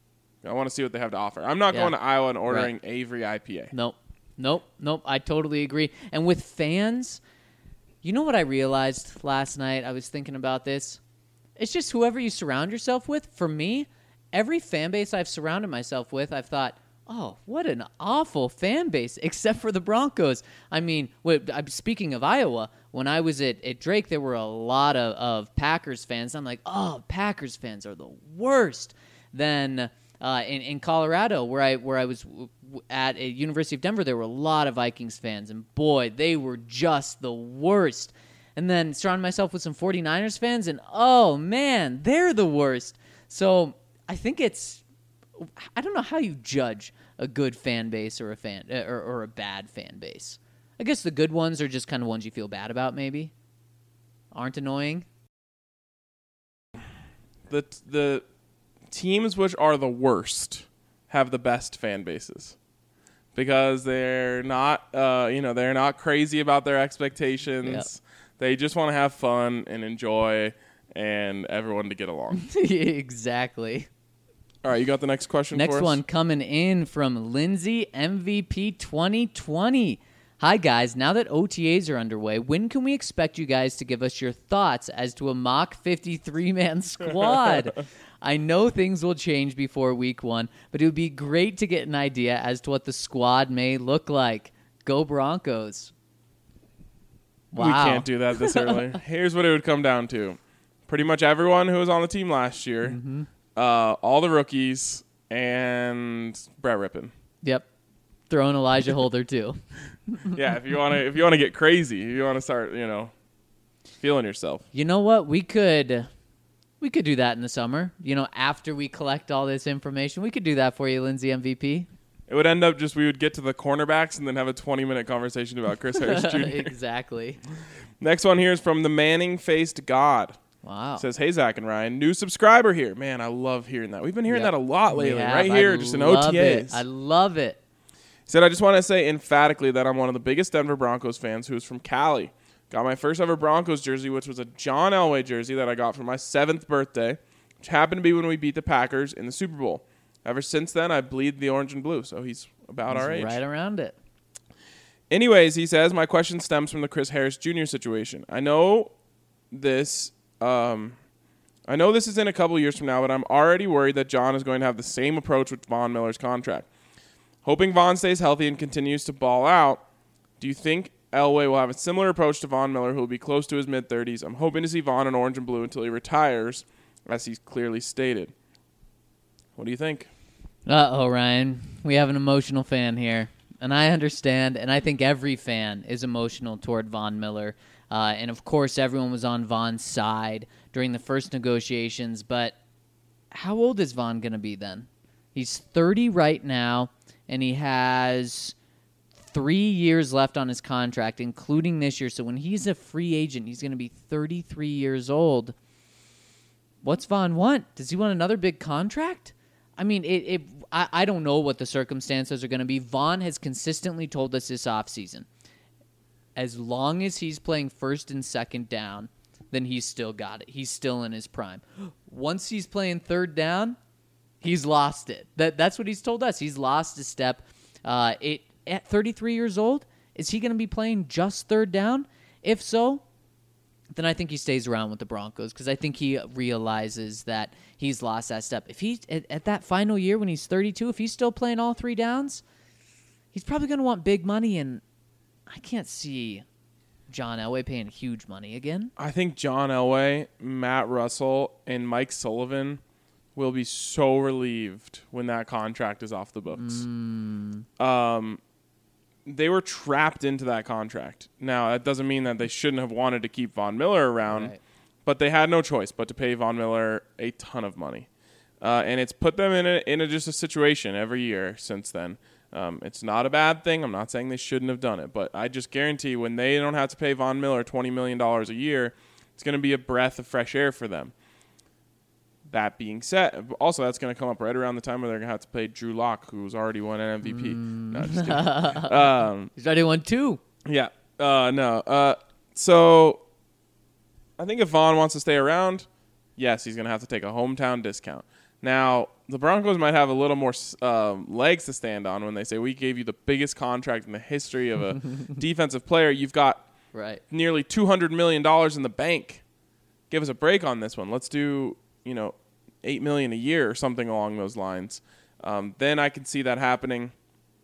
I want to see what they have to offer. I'm not Yeah. going to Iowa and ordering Avery IPA. Nope. I totally agree. And with fans, you know what I realized last night? I was thinking about this. It's just whoever you surround yourself with. For me, every fan base I've surrounded myself with, I've thought, oh, what an awful fan base, except for the Broncos. I mean, speaking of Iowa, when I was at Drake, there were a lot of Packers fans. I'm like, oh, Packers fans are the worst. Then in Colorado, where I was at University of Denver, there were a lot of Vikings fans, and boy, they were just the worst. And then surrounded myself with some 49ers fans, and oh man, they're the worst. So I think I don't know how you judge a good fan base or a bad fan base. I guess the good ones are just kind of ones you feel bad about, maybe. Aren't annoying. The teams which are the worst have the best fan bases because they're not they're not crazy about their expectations. Yep. They just want to have fun and enjoy and everyone to get along. Exactly. All right, you got the next question for us? Next one coming in from Lindsay, MVP 2020. Hi, guys. Now that OTAs are underway, when can we expect you guys to give us your thoughts as to a mock 53-man squad? I know things will change before week 1, but it would be great to get an idea as to what the squad may look like. Go Broncos. Wow. We can't do that this early. Here's what it would come down to. Pretty much everyone who was on the team last year, all the rookies, and Brett Rippon. Yep. Throw in Elijah Holder, too. Yeah, if you want to get crazy, if you want to start, feeling yourself. You know what? We could do that in the summer. After we collect all this information, we could do that for you, Lindsay MVP. It would end up we would get to the cornerbacks and then have a 20-minute conversation about Chris Harris Jr. Exactly. Next one here is from the Manning-faced God. Wow. Says, hey, Zach and Ryan, new subscriber here. Man, I love hearing that. We've been hearing that a lot lately, right here, just in OTAs. I love it. Said, I just want to say emphatically that I'm one of the biggest Denver Broncos fans who's from Cali. Got my first ever Broncos jersey, which was a John Elway jersey that I got for my 7th birthday, which happened to be when we beat the Packers in the Super Bowl. Ever since then, I bleed the orange and blue, so he's about our age. Right around it. Anyways, he says, my question stems from the Chris Harris Jr. situation. I know this is in a couple years from now, but I'm already worried that John is going to have the same approach with Von Miller's contract. Hoping Von stays healthy and continues to ball out, do you think Elway will have a similar approach to Von Miller, who will be close to his mid-30s? I'm hoping to see Von in orange and blue until he retires, as he's clearly stated. What do you think? Uh-oh, Ryan. We have an emotional fan here. And I understand, and I think every fan is emotional toward Von Miller. And, of course, everyone was on Von's side during the first negotiations. But how old is Von going to be then? He's 30 right now, and he has 3 years left on his contract, including this year. So when he's a free agent, he's going to be 33 years old. What's Von want? Does he want another big contract? I mean, I don't know what the circumstances are going to be. Von has consistently told us this offseason, as long as he's playing first and second down, then he's still got it. He's still in his prime. Once he's playing third down, he's lost it. That's what he's told us. He's lost a step. At 33 years old, is he going to be playing just third down? If so, then I think he stays around with the Broncos because I think he realizes that he's lost that step. If he's at that final year when he's 32, if he's still playing all 3 downs, he's probably going to want big money, and I can't see John Elway paying huge money again. I think John Elway, Matt Russell, and Mike Sullivan will be so relieved when that contract is off the books. They were trapped into that contract. Now, that doesn't mean that they shouldn't have wanted to keep Von Miller around, Right. but they had no choice but to pay Von Miller a ton of money. And it's put them in just a situation every year since then. It's not a bad thing. I'm not saying they shouldn't have done it, but I just guarantee when they don't have to pay Von Miller $20 million a year, it's going to be a breath of fresh air for them. That being said, also that's going to come up right around the time where they're going to have to pay Drew Lock, who's already won an MVP. No, just kidding. He's already won 2. Yeah. No. So I think if Vaughn wants to stay around, yes, he's going to have to take a hometown discount. Now, the Broncos might have a little more legs to stand on when they say, we gave you the biggest contract in the history of a defensive player. You've got nearly $200 million in the bank. Give us a break on this one. Let's do, $8 million a year or something along those lines. Then I can see that happening.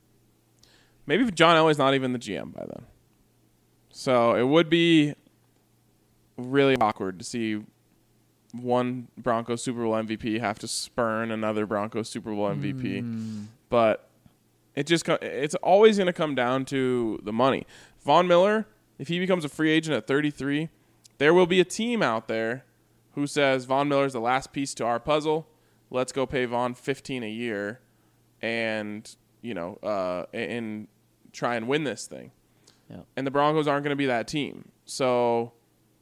Maybe if John Elway's not even the GM by then. So it would be really awkward to see one Broncos Super Bowl MVP have to spurn another Broncos Super Bowl MVP. But it's always going to come down to the money. Von Miller, if he becomes a free agent at 33, there will be a team out there who says Von Miller's the last piece to our puzzle. Let's go pay Von $15 a year and, and try and win this thing. Yep. And the Broncos aren't going to be that team. So,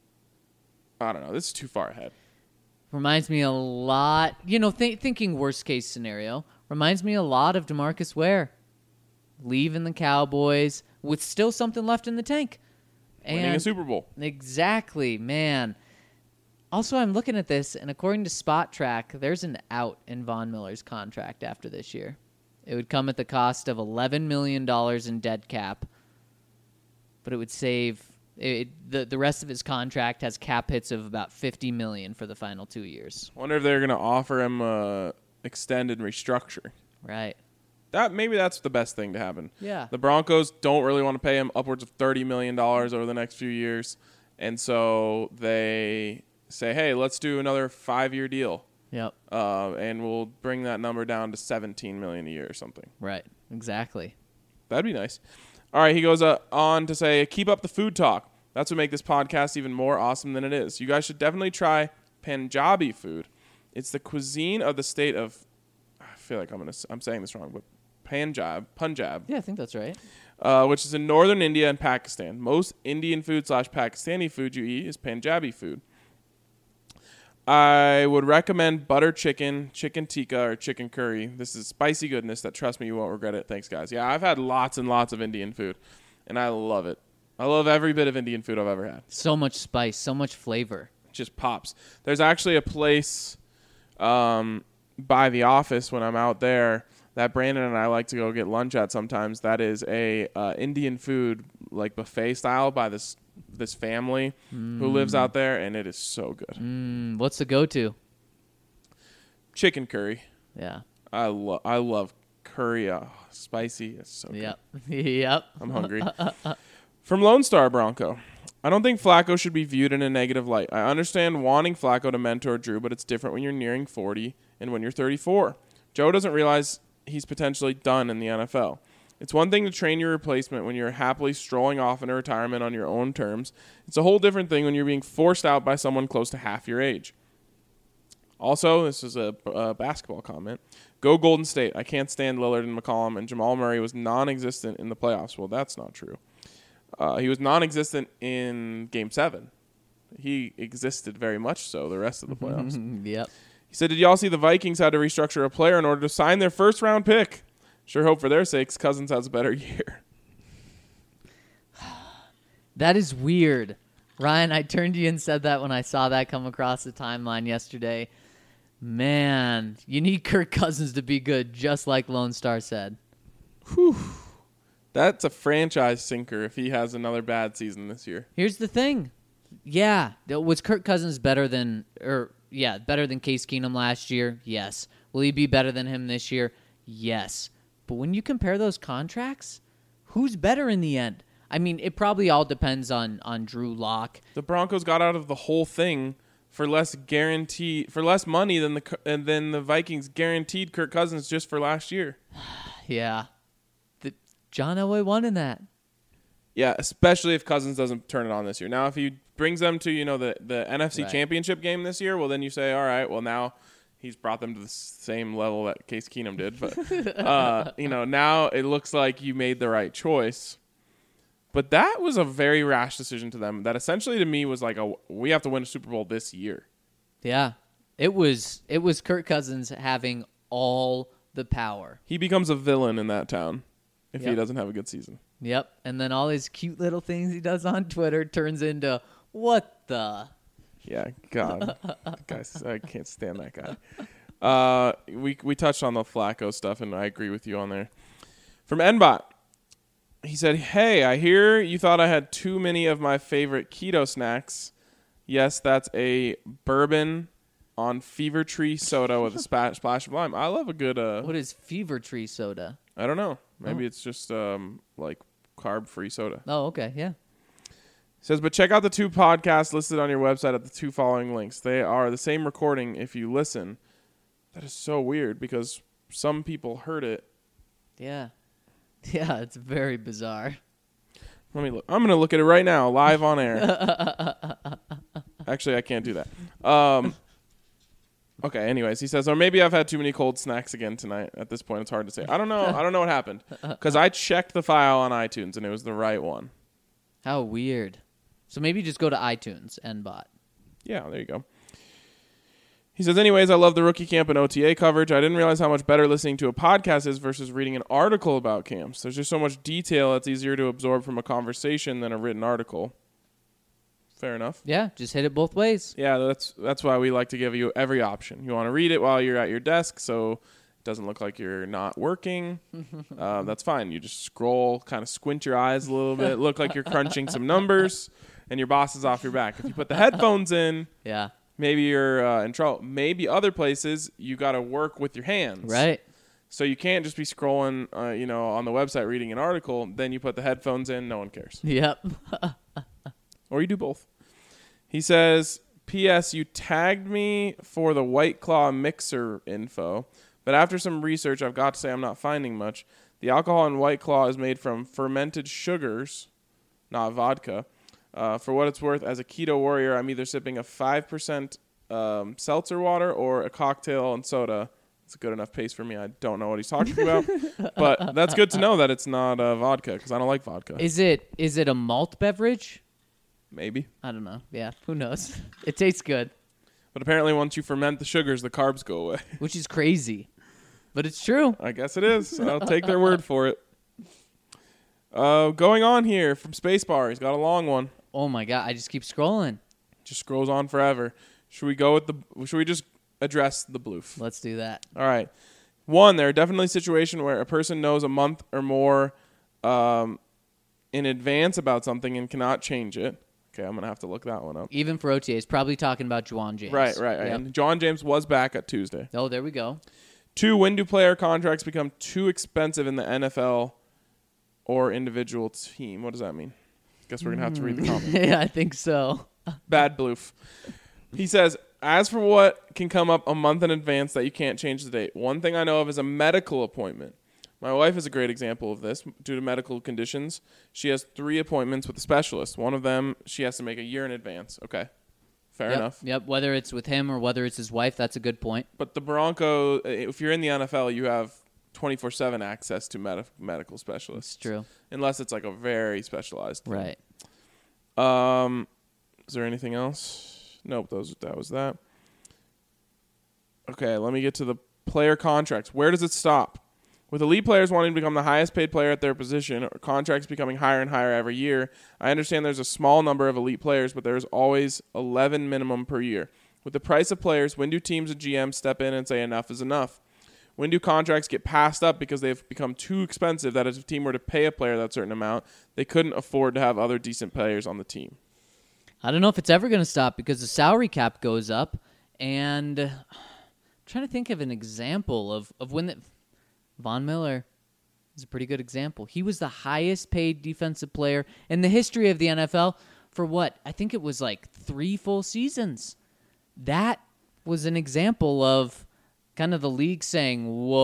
I don't know. This is too far ahead. Reminds me a lot, thinking worst case scenario, reminds me a lot of DeMarcus Ware leaving the Cowboys with still something left in the tank. Winning a Super Bowl. Exactly, man. Also, I'm looking at this, and according to Spot Track, there's an out in Von Miller's contract after this year. It would come at the cost of $11 million in dead cap, but it would save the rest of his contract has cap hits of about $50 million for the final 2 years. Wonder if they're going to offer him a extended restructure. Right. Maybe that's the best thing to happen. Yeah. The Broncos don't really want to pay him upwards of $30 million over the next few years, and so they say, hey, let's do another 5-year deal. Yep. And we'll bring that number down to $17 million a year or something. Right. Exactly. That'd be nice. All right, he goes on to say, keep up the food talk. That's what makes this podcast even more awesome than it is. You guys should definitely try Punjabi food. It's the cuisine of the state of, I feel like I'm saying this wrong, but Punjab. Yeah, I think that's right. Which is in northern India and Pakistan. Most Indian food / Pakistani food you eat is Punjabi food. I would recommend butter chicken, chicken tikka, or chicken curry. This is spicy goodness that, trust me, you won't regret it. Thanks, guys. Yeah, I've had lots and lots of Indian food, and I love it. I love every bit of Indian food I've ever had. So much spice, so much flavor. It just pops. There's actually a place by the office when I'm out there that Brandon and I like to go get lunch at sometimes. That is a Indian food, like buffet style, by this family who lives out there, and it is so good. What's the go-to? Chicken curry. Yeah. I love curry. Spicy. It's so good. Yep. I'm hungry. From Lone Star Bronco. I don't think Flacco should be viewed in a negative light. I understand wanting Flacco to mentor Drew, but it's different when you're nearing 40 and when you're 34. Joe doesn't realize he's potentially done in the NFL. It's one thing to train your replacement when you're happily strolling off into retirement on your own terms. It's a whole different thing when you're being forced out by someone close to half your age. Also, this is a basketball comment. Go Golden State. I can't stand Lillard and McCollum, and Jamal Murray was non-existent in the playoffs. Well, that's not true. He was non-existent in Game 7. He existed very much so the rest of the playoffs. Yep. He said, did y'all see the Vikings had to restructure a player in order to sign their first-round pick? Sure hope for their sakes Cousins has a better year. That is weird. Ryan, I turned to you and said that when I saw that come across the timeline yesterday. Man, you need Kirk Cousins to be good, just like Lone Star said. Whew. That's a franchise sinker if he has another bad season this year. Here's the thing. Yeah, was Kirk Cousins better than Case Keenum last year? Yes. Will he be better than him this year? Yes. But when you compare those contracts, who's better in the end? I mean, it probably all depends on Drew Lock. The Broncos got out of the whole thing for less money than the Vikings guaranteed Kirk Cousins just for last year. Yeah. John Elway won in that. Yeah, especially if Cousins doesn't turn it on this year. Now, if he brings them to, the NFC Championship game this year, well, then you say, all right, well, now he's brought them to the same level that Case Keenum did. But, now it looks like you made the right choice. But that was a very rash decision to them that essentially to me was like, we have to win a Super Bowl this year. Yeah. It was Kirk Cousins having all the power. He becomes a villain in that town if he doesn't have a good season. Yep. And then all his cute little things he does on Twitter turns into, what the? Yeah, God. Guys, I can't stand that guy. We touched on the Flacco stuff, and I agree with you on there. From Nbot, he said, "Hey, I hear you thought I had too many of my favorite keto snacks. Yes, that's a bourbon on Fever Tree soda with a splash of lime. I love a good. What is Fever Tree soda? I don't know. Maybe it's just like carb-free soda." Oh, okay, yeah. Says, but check out the 2 podcasts listed on your website at the 2 following links. They are the same recording if you listen. That is so weird because some people heard it. Yeah. Yeah, it's very bizarre. Let me look. I'm going to look at it right now, live on air. Actually, I can't do that. Okay, anyways, he says, or maybe I've had too many cold snacks again tonight. At this point, it's hard to say. I don't know. I don't know what happened because I checked the file on iTunes and it was the right one. How weird. So maybe just go to iTunes and bot. Yeah, there you go. He says, anyways, I love the rookie camp and OTA coverage. I didn't realize how much better listening to a podcast is versus reading an article about camps. There's just so much detail that's easier to absorb from a conversation than a written article. Fair enough. Yeah, just hit it both ways. Yeah, that's why we like to give you every option. You want to read it while you're at your desk so it doesn't look like you're not working. That's fine. You just scroll, kind of squint your eyes a little bit, look like you're crunching some numbers, and your boss is off your back. If you put the headphones in, Yeah. maybe you're in trouble. Maybe other places you got to work with your hands. Right. So you can't just be scrolling, on the website reading an article. Then you put the headphones in. No one cares. Yep. Or you do both. He says, P.S. You tagged me for the White Claw mixer info, but after some research, I've got to say I'm not finding much. The alcohol in White Claw is made from fermented sugars, not vodka. For what it's worth, as a keto warrior, I'm either sipping a 5% seltzer water or a cocktail and soda. It's a good enough pace for me. I don't know what he's talking about, but that's good to know that it's not vodka because I don't like vodka. Is it a malt beverage? Maybe. I don't know. Yeah, who knows? It tastes good, But apparently once you ferment the sugars, the carbs go away. which is crazy. But it's true. I guess it is. I'll take their word for it. Going on here from Spacebar. He's got a long one. Oh my god, I just keep scrolling. Just scrolls on forever. Should we just address the bloof? Let's do that. All right. One, there are definitely situations where a person knows a month or more in advance about something and cannot change it. Okay, I'm going to have to look that one up. Even for OTAs, probably talking about Juwan James. Right. Yep. And John James was back at Tuesday. Oh, there we go. 2, when do player contracts become too expensive in the NFL or individual team? What does that mean? Guess we're going to have to read the comment. Yeah, I think so. Bad bloof. He says, as for what can come up a month in advance that you can't change the date, one thing I know of is a medical appointment. My wife is a great example of this. Due to medical conditions, she has 3 appointments with a specialist. One of them she has to make a year in advance. Okay, fair enough. Yep, whether it's with him or whether it's his wife, that's a good point. But the Broncos, if you're in the NFL, you have 24/7 access to medical specialists. It's true. Unless it's like a very specialized thing. Right. Is there anything else? Nope, that was that. Okay, let me get to the player contracts. Where does it stop? With elite players wanting to become the highest paid player at their position, or contracts becoming higher and higher every year, I understand there's a small number of elite players, but there's always 11 minimum per year. With the price of players, when do teams and GMs step in and say enough is enough? When do contracts get passed up because they've become too expensive that if a team were to pay a player that certain amount, they couldn't afford to have other decent players on the team? I don't know if it's ever going to stop because the salary cap goes up, and I'm trying to think of an example of when Von Miller is a pretty good example. He was the highest paid defensive player in the history of the NFL for what? I think it was like 3 full seasons. That was an example of kind of the league saying,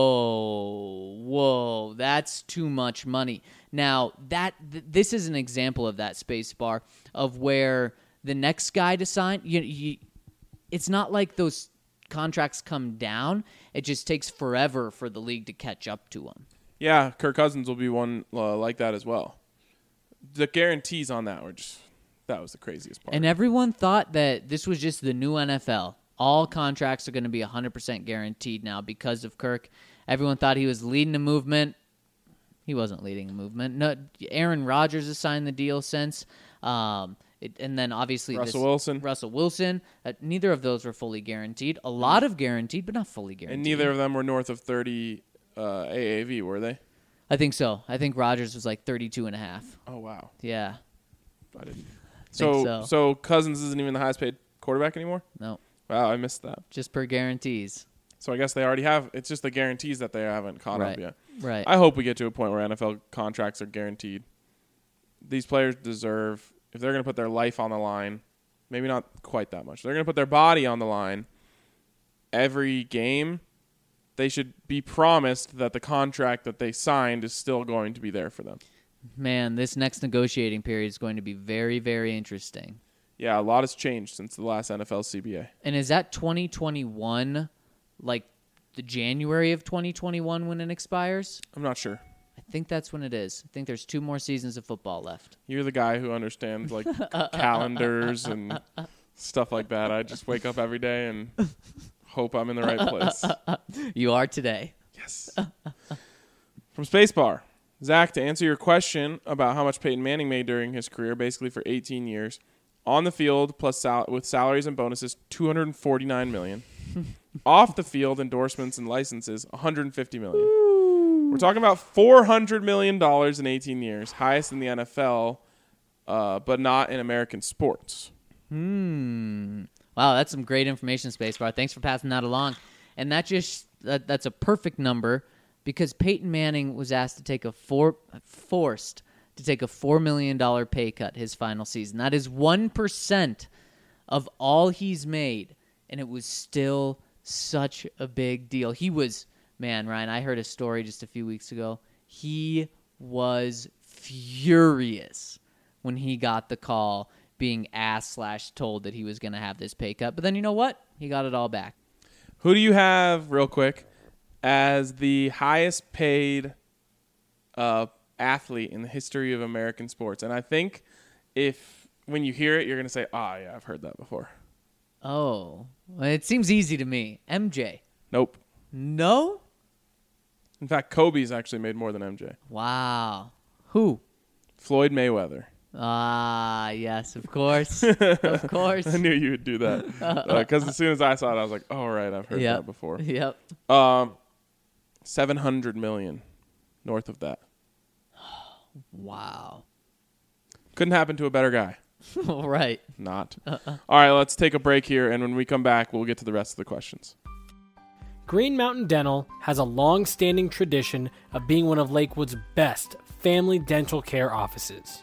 whoa, that's too much money. Now, this is an example of that, Space Bar, of where the next guy to sign, it's not like those contracts come down. It just takes forever for the league to catch up to them. Yeah, Kirk Cousins will be one like that as well. The guarantees on that that was the craziest part. And everyone thought that this was just the new NFL. All contracts are going to be 100% guaranteed now because of Kirk. Everyone thought he was leading the movement. He wasn't leading the movement. No, Aaron Rodgers has signed the deal since. And then obviously Russell Wilson. Russell Wilson. Neither of those were fully guaranteed. A lot of guaranteed, but not fully guaranteed. And neither of them were north of 30 AAV, were they? I think so. I think Rodgers was like 32.5. Oh, wow. Yeah. I didn't. Think so. So Cousins isn't even the highest paid quarterback anymore? No. Wow, I missed that. Just per guarantees. So I guess they already have. It's just the guarantees that they haven't caught up yet. Right. I hope we get to a point where NFL contracts are guaranteed. These players deserve, if they're going to put their life on the line, maybe not quite that much. They're going to put their body on the line every game. They should be promised that the contract that they signed is still going to be there for them. Man, this next negotiating period is going to be very, very interesting. Yeah, a lot has changed since the last NFL CBA. And is that 2021, like the January of 2021 when it expires? I'm not sure. I think that's when it is. I think there's 2 more seasons of football left. You're the guy who understands like calendars and stuff like that. I just wake up every day and hope I'm in the right place. You are today. Yes. From Spacebar. Zach, to answer your question about how much Peyton Manning made during his career, basically for 18 years, on the field plus with salaries and bonuses, $249 million. Off the field, endorsements and licenses, $150 million. We're talking about $400 million in 18 years, highest in the NFL, but not in American sports. Wow, that's some great information, Spacebar. Thanks for passing that along. And that's a perfect number because Peyton Manning was asked to take forced to take a $4 million pay cut his final season. That is 1% of all he's made, and it was still such a big deal. He was, man, Ryan, I heard a story just a few weeks ago. He was furious when he got the call being asked/told that he was going to have this pay cut. But then you know what? He got it all back. Who do you have, real quick, as the highest paid athlete in the history of American sports? And I think when you hear it, you're going to say, yeah, I've heard that before. Oh, well, it seems easy to me. MJ. Nope. No? In fact, Kobe's actually made more than MJ. Wow. Who? Floyd Mayweather. Ah, yes, of course. Of course. I knew you would do that. Because as soon as I saw it, I was like, oh, right, I've heard that before. Yep. $700 million north of that. Wow. Couldn't happen to a better guy. Right. Not. All right, let's take a break here, and when we come back, we'll get to the rest of the questions. Green Mountain Dental has a long-standing tradition of being one of Lakewood's best family dental care offices.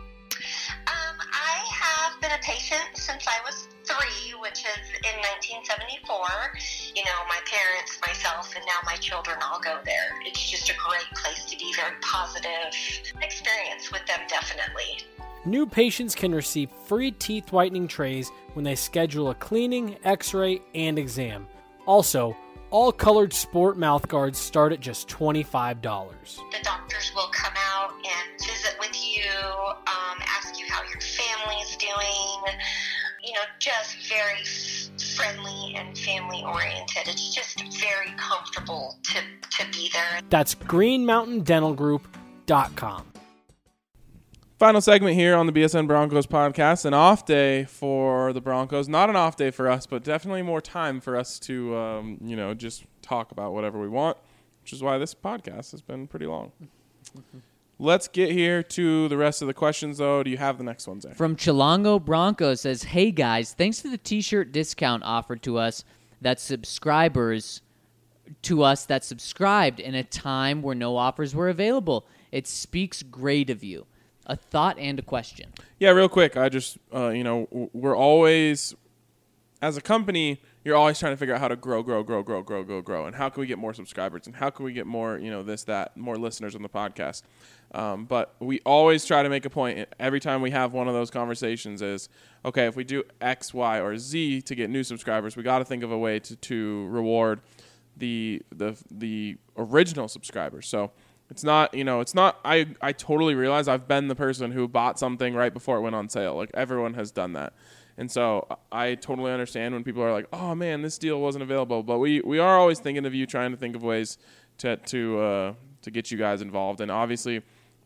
I have been a patient since I was 3, which is in 1974. You know, my parents, myself, and now my children all go there. It's just a great place to be, very positive experience with them, definitely. New patients can receive free teeth whitening trays when they schedule a cleaning, x-ray, and exam. Also, all colored sport mouth guards start at just $25. The doctors will come out and visit with you, ask you how your family's doing, you know, just very friendly and family-oriented. It's just very comfortable to be there. That's greenmountaindentalgroup.com. Final segment here on the BSN Broncos podcast. An off day for the Broncos. Not an off day for us, but definitely more time for us to, just talk about whatever we want, which is why this podcast has been pretty long. Let's get here to the rest of the questions, though. Do you have the next one, Zach? From Chilongo Broncos says, hey, guys, thanks for the T-shirt discount offered to us that subscribers to us that subscribed in a time where no offers were available. It speaks great of you. A thought and a question. Yeah, real quick. I just, we're always, as a company, you're always trying to figure out how to grow. And how can we get more subscribers? And how can we get more, this, that, more listeners on the podcast? But we always try to make a point every time we have one of those conversations is, okay, if we do X, Y, or Z to get new subscribers, we got to think of a way to reward the original subscribers. So it's not, I totally realize I've been the person who bought something right before it went on sale. Like, everyone has done that. And so I totally understand when people are like, oh, man, this deal wasn't available. But we are always thinking of you, trying to think of ways to get you guys involved. And obviously,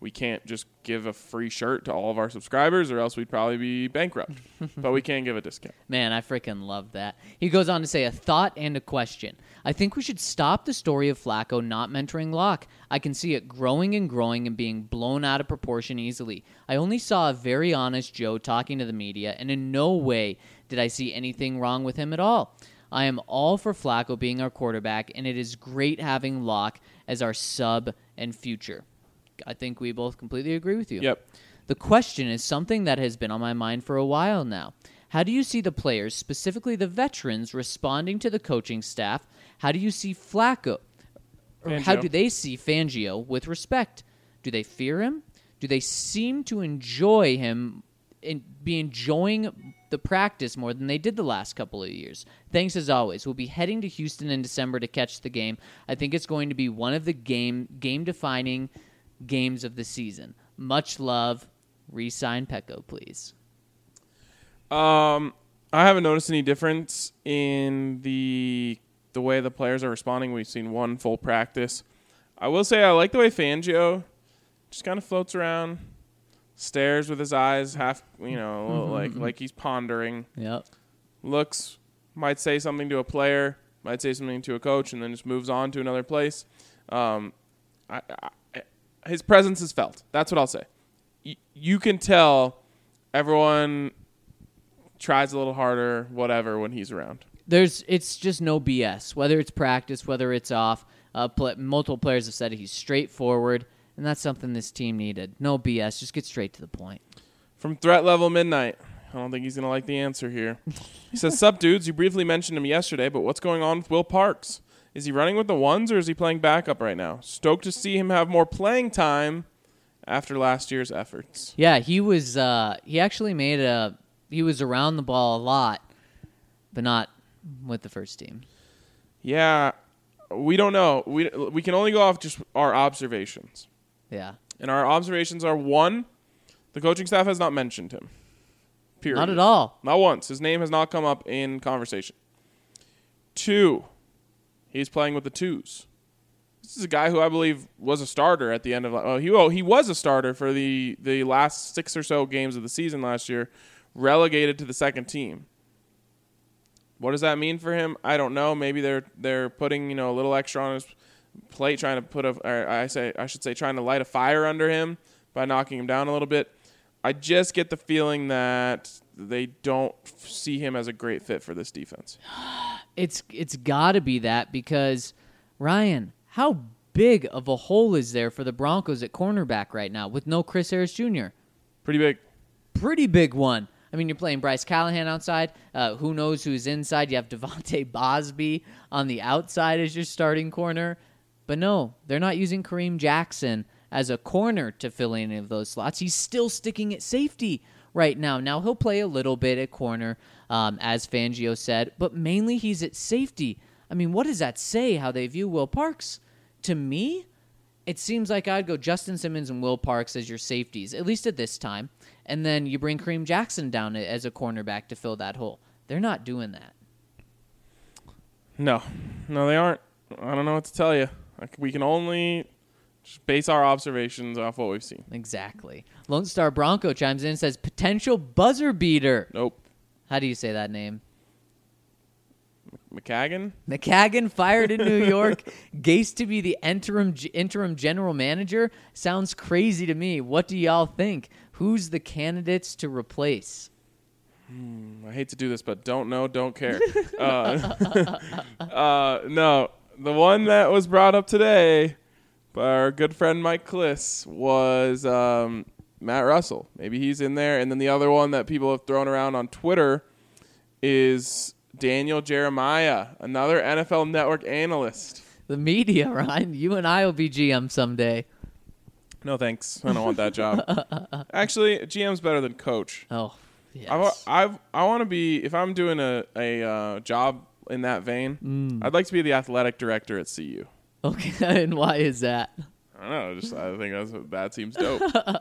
we can't just give a free shirt to all of our subscribers or else we'd probably be bankrupt. But we can give a discount. Man, I freaking love that. He goes on to say, a thought and a question. I think we should stop the story of Flacco not mentoring Locke. I can see it growing and growing and being blown out of proportion easily. I only saw a very honest Joe talking to the media, and in no way did I see anything wrong with him at all. I am all for Flacco being our quarterback, and it is great having Locke as our sub and future. I think we both completely agree with you. Yep. The question is something that has been on my mind for a while now. How do you see the players, specifically the veterans, responding to the coaching staff? How do you see Flacco? Or how do they see Fangio with respect? Do they fear him? Do they seem to enjoy him and be enjoying the practice more than they did the last couple of years? Thanks as always. We'll be heading to Houston in December to catch the game. I think it's going to be one of the game-defining games of the season. Much love. Re-sign Pecco, please. I haven't noticed any difference in the way the players are responding. We've seen one full practice. I will say I like the way Fangio just kind of floats around, stares with his eyes half, like he's pondering. Yep. Looks, might say something to a player, might say something to a coach, and then just moves on to another place. His presence is felt. That's what I'll say. You can tell everyone tries a little harder, whatever, when he's around. It's just no BS. Whether it's practice, whether it's off, multiple players have said he's straightforward, and that's something this team needed. No BS. Just get straight to the point. From Threat Level Midnight. I don't think he's going to like the answer here. He says, "Sup, dudes? You briefly mentioned him yesterday, but what's going on with Will Parks? Is he running with the ones, or is he playing backup right now? Stoked to see him have more playing time after last year's efforts." Yeah, he was. He actually he was around the ball a lot, but not with the first team. Yeah, we don't know. We can only go off just our observations. Yeah. And our observations are, 1, the coaching staff has not mentioned him. Period. Not at all. Not once. His name has not come up in conversation. 2, he's playing with the twos. This is a guy who I believe was a starter at the end of he was a starter for the last 6 or so games of the season last year, relegated to the second team. What does that mean for him? I don't know. Maybe they're putting a little extra on his plate, trying to light a fire under him by knocking him down a little bit. I just get the feeling that they don't see him as a great fit for this defense. It's got to be that because, Ryan, how big of a hole is there for the Broncos at cornerback right now with no Chris Harris Jr.? Pretty big. Pretty big one. I mean, you're playing Bryce Callahan outside. Who knows who's inside? You have Devontae Bosby on the outside as your starting corner. But no, they're not using Kareem Jackson as a corner to fill any of those slots. He's still sticking at safety right now. Now, he'll play a little bit at corner, as Fangio said, but mainly he's at safety. I mean, what does that say, how they view Will Parks? To me, it seems like I'd go Justin Simmons and Will Parks as your safeties, at least at this time, and then you bring Kareem Jackson down as a cornerback to fill that hole. They're not doing that. No, they aren't. I don't know what to tell you. We can only just base our observations off what we've seen. Exactly. Lone Star Bronco chimes in and says, potential buzzer beater. Nope. How do you say that name? McCagan fired in New York. Gase to be the interim general manager. Sounds crazy to me. What do y'all think? Who's the candidates to replace? I hate to do this, but don't know, don't care. No, the one that was brought up today by our good friend Mike Kliss was Matt Russell. Maybe he's in there. And then the other one that people have thrown around on Twitter is Daniel Jeremiah, another NFL Network analyst. The media, Ryan. You and I will be GM someday. No, thanks. I don't want that job. Actually, GM's better than coach. Oh, yes. I want to be, if I'm doing a job in that vein, I'd like to be the athletic director at CU. Okay, and why is that? I don't know. I think that seems dope.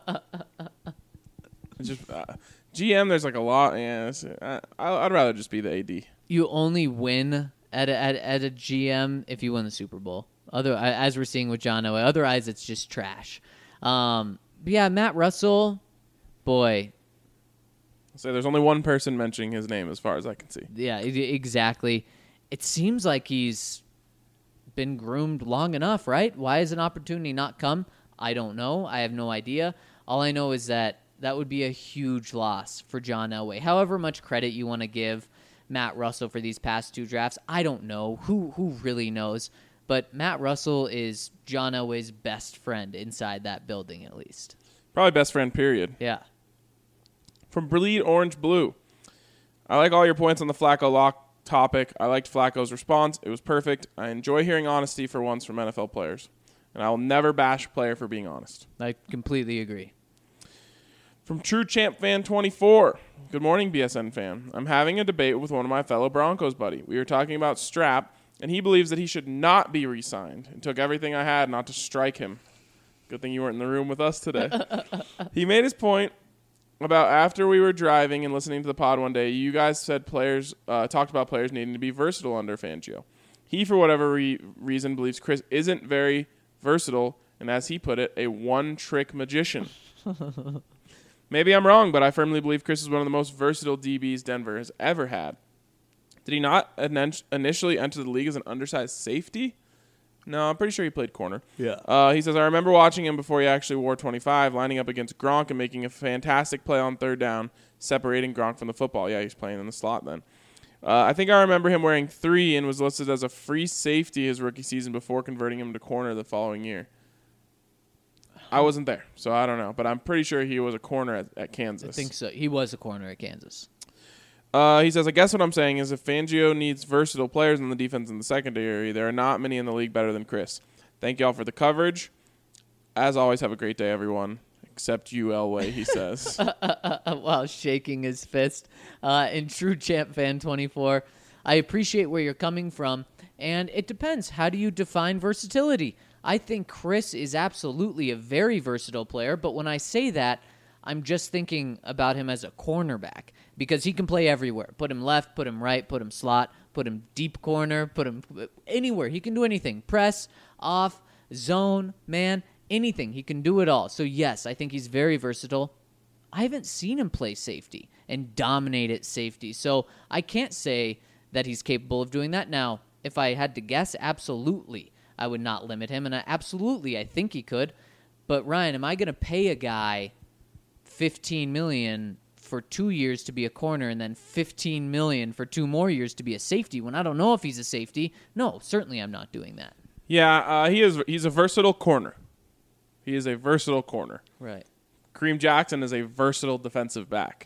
It's just GM. There's like a lot. Yeah, I'd rather just be the AD. You only win at a GM if you win the Super Bowl. As we're seeing with John Elway. Otherwise, it's just trash. yeah, Matt Russell, boy. So there's only one person mentioning his name as far as I can see. Yeah, exactly. It seems like he's been groomed long enough, right? Why has an opportunity not come? I don't know. I have no idea. All I know is that would be a huge loss for John Elway. However much credit you want to give Matt Russell for these past 2 drafts, I don't know. Who really knows? But Matt Russell is John Elway's best friend inside that building, at least. Probably best friend, period. Yeah. From Bleed Orange Blue. I like all your points on the Flacco lock topic. I liked Flacco's response. It was perfect. I enjoy hearing honesty for once from NFL players. And I will never bash a player for being honest. I completely agree. From True Champ Fan 24. Good morning, BSN fan. I'm having a debate with one of my fellow Broncos buddy. We were talking about Strap, and he believes that he should not be re-signed. It took everything I had not to strike him. Good thing you weren't in the room with us today. He made his point about after we were driving and listening to the pod one day, you guys said talked about players needing to be versatile under Fangio. He, for whatever reason, believes Chris isn't very versatile, and as he put it, a one-trick magician. Maybe I'm wrong, but I firmly believe Chris is one of the most versatile DBs Denver has ever had. Did he not initially enter the league as an undersized safety? No, I'm pretty sure he played corner. Yeah. He says, I remember watching him before he actually wore 25, lining up against Gronk and making a fantastic play on third down, separating Gronk from the football. Yeah, he's playing in the slot then. I think I remember him wearing 3 and was listed as a free safety his rookie season before converting him to corner the following year. I wasn't there, so I don't know. But I'm pretty sure he was a corner at Kansas. I think so. He was a corner at Kansas. He says, I guess what I'm saying is if Fangio needs versatile players in the defense and the secondary, there are not many in the league better than Chris. Thank you all for the coverage. As always, have a great day, everyone. Except you, Elway, he says. While shaking his fist. In True Champ Fan 24, I appreciate where you're coming from, and it depends. How do you define versatility? I think Chris is absolutely a very versatile player, but when I say that, I'm just thinking about him as a cornerback because he can play everywhere. Put him left, put him right, put him slot, put him deep corner, put him anywhere. He can do anything. Press, off, zone, man, anything. He can do it all. So, yes, I think he's very versatile. I haven't seen him play safety and dominate at safety, so I can't say that he's capable of doing that. Now, if I had to guess, absolutely, I would not limit him, and I think he could. But, Ryan, am I going to pay a guy $15 million for 2 years to be a corner and then $15 million for 2 more years to be a safety when I don't know if he's a safety? No, certainly I'm not doing that. Yeah, he's a versatile corner. He is a versatile corner. Right. Kareem Jackson is a versatile defensive back.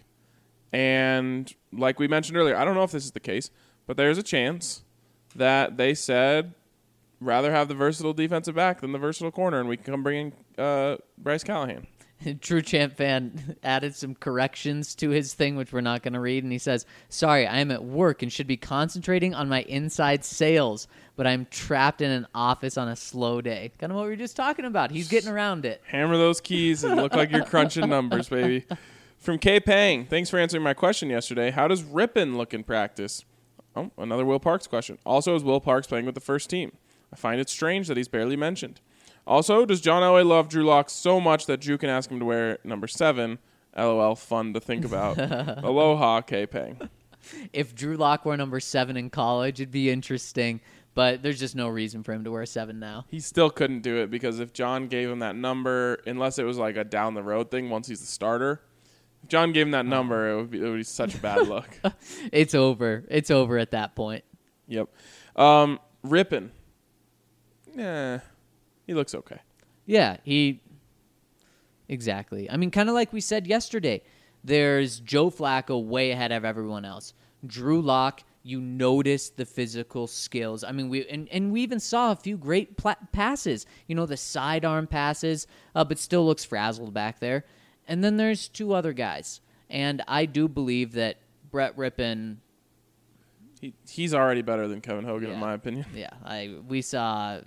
And like we mentioned earlier, I don't know if this is the case, but there's a chance that they said rather have the versatile defensive back than the versatile corner, and we can come bring in Bryce Callahan. True Champ Fan added some corrections to his thing, which we're not going to read, and he says, sorry, I am at work and should be concentrating on my inside sales, but I'm trapped in an office on a slow day. Kind of what we were just talking about. He's getting around it. Hammer those keys and look like you're crunching numbers, baby. From K. Pang, thanks for answering my question yesterday. How does Rippon look in practice? Oh, another Will Parks question. Also, is Will Parks playing with the first team? I find it strange that he's barely mentioned. Also, does John Elway love Drew Lock so much that Drew can ask him to wear number 7? LOL, fun to think about. Aloha, K-Pang. If Drew Lock wore number 7 in college, it'd be interesting, but there's just no reason for him to wear 7 now. He still couldn't do it because if John gave him that number, unless it was like a down-the-road thing once he's the starter, if John gave him that number, it would be such a bad look. It's over. It's over at that point. Yep. Rippon. Yeah. He looks okay. Yeah, exactly. I mean, kind of like we said yesterday, there's Joe Flacco way ahead of everyone else. Drew Lock, you notice the physical skills. I mean, we even saw a few great passes. You know, the sidearm passes, but still looks frazzled back there. And then there's 2 other guys. And I do believe that Brett Rippon... He's already better than Kevin Hogan, in my opinion. Yeah, we saw...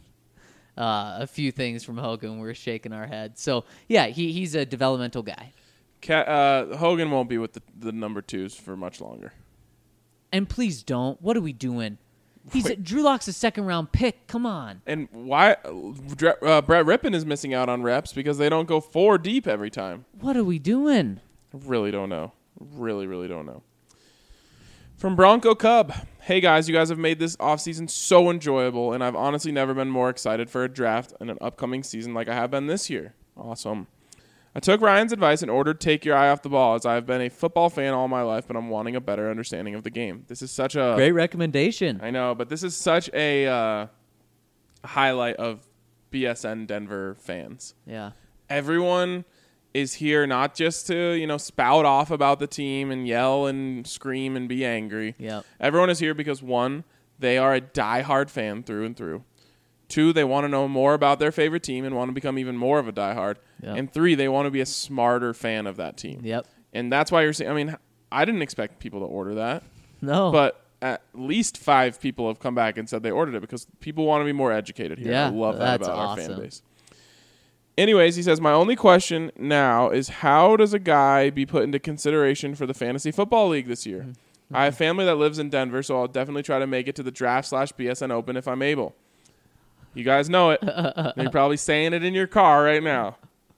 a few things from Hogan. We're shaking our head. So, yeah, he's a developmental guy. Hogan won't be with the number 2s for much longer. And please don't. What are we doing? Drew Lock's a second-round pick. Come on. And why Brett Rippon is missing out on reps because they don't go 4 deep every time. What are we doing? I really don't know. Really, really don't know. From Bronco Cub. Hey, guys, you guys have made this offseason so enjoyable, and I've honestly never been more excited for a draft and an upcoming season like I have been this year. Awesome. I took Ryan's advice and ordered Take Your Eye Off the Ball, as I've been a football fan all my life, but I'm wanting a better understanding of the game. This is such a... Great recommendation. I know, but this is such a highlight of BSN Denver fans. Yeah. Everyone is here not just to, spout off about the team and yell and scream and be angry. Yep. Everyone is here because, 1, they are a diehard fan through and through. 2, they want to know more about their favorite team and want to become even more of a diehard. Yep. And 3, they want to be a smarter fan of that team. Yep. And that's why you're saying, I didn't expect people to order that. No. But at least 5 people have come back and said they ordered it because people want to be more educated here. Yeah, I love that that's about our awesome. fan base. Anyways, he says, my only question now is how does a guy be put into consideration for the Fantasy Football League this year? Mm-hmm. I have family that lives in Denver, so I'll definitely try to make it to the draft/BSN Open if I'm able. You guys know it. You're probably saying it in your car right now.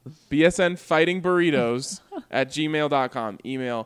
BSNfightingburritos@gmail.com. Email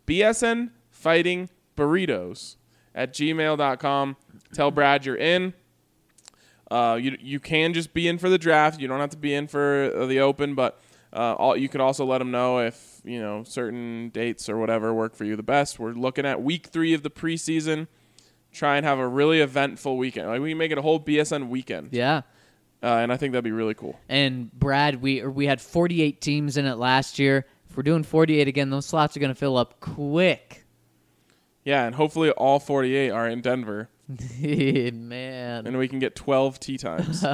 BSNfightingburritos@gmail.com. Tell Brad you're in. You can just be in for the draft. You don't have to be in for the Open, but you could also let him know if certain dates or whatever work for you the best. We're looking at week 3 of the preseason. Try and have a really eventful weekend. Like we can make it a whole BSN weekend. Yeah. And I think that'd be really cool. And Brad, we had 48 teams in it last year. If we're doing 48 again, those slots are going to fill up quick. Yeah, and hopefully all 48 are in Denver. Man. And we can get 12 tee times.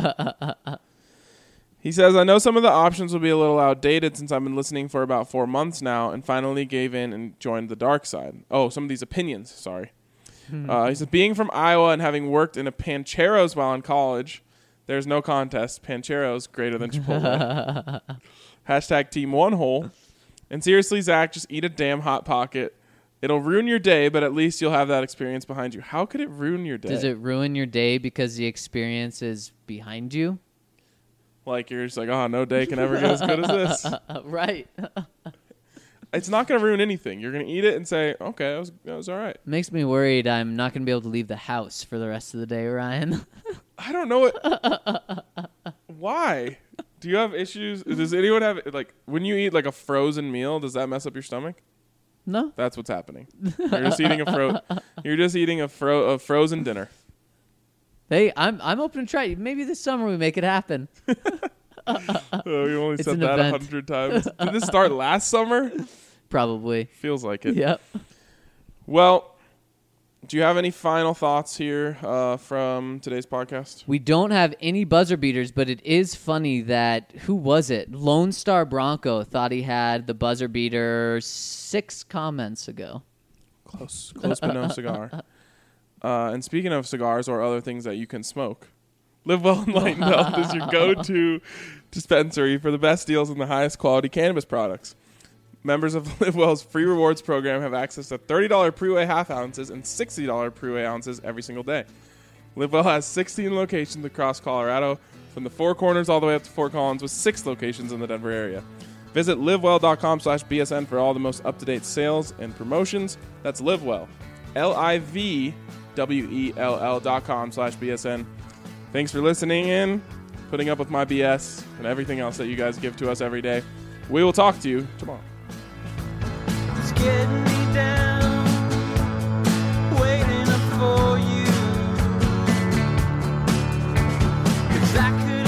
He says, I know some of the options will be a little outdated since I've been listening for about 4 months now and finally gave in and joined the dark side. Oh, some of these opinions, sorry. He says, being from Iowa and having worked in a Pancheros while in college, there's no contest. Pancheros greater than Chipotle. Hashtag team 1 hole. And seriously, Zach, just eat a damn Hot Pocket. It'll ruin your day, but at least you'll have that experience behind you. How could it ruin your day? Does it ruin your day because the experience is behind you? Like you're just like, oh, no day can ever get as good as this. Right. It's not going to ruin anything. You're going to eat it and say, okay, that was all right. Makes me worried I'm not going to be able to leave the house for the rest of the day, Ryan. I don't know what. Why? Do you have issues? Does anyone have, like, when you eat, like, a frozen meal, does that mess up your stomach? No. That's what's happening. You're just eating a frozen dinner. Hey, I'm open to try it. Maybe this summer we make it happen. Oh, you only It's said an that event. 100 times. Did this start last summer? Probably. Feels like it. Yep. Well, do you have any final thoughts here from today's podcast? We don't have any buzzer beaters, but it is funny that, who was it? Lone Star Bronco thought he had the buzzer beater 6 comments ago. Close but no cigar. And speaking of cigars or other things that you can smoke, Live Well Enlightened Health is your go-to dispensary for the best deals and the highest quality cannabis products. Members of Live Well's free rewards program have access to $30 pre-weigh half ounces and $60 pre-weigh ounces every single day. Live Well has 16 locations across Colorado, from the Four Corners all the way up to Fort Collins, with 6 locations in the Denver area. Visit livewell.com/BSN for all the most up-to-date sales and promotions. That's LiveWell. LIVWELL.com/BSN. Thanks for listening in, putting up with my BS, and everything else that you guys give to us every day. We will talk to you tomorrow. It's getting me down, waiting up for you. 'Cause I could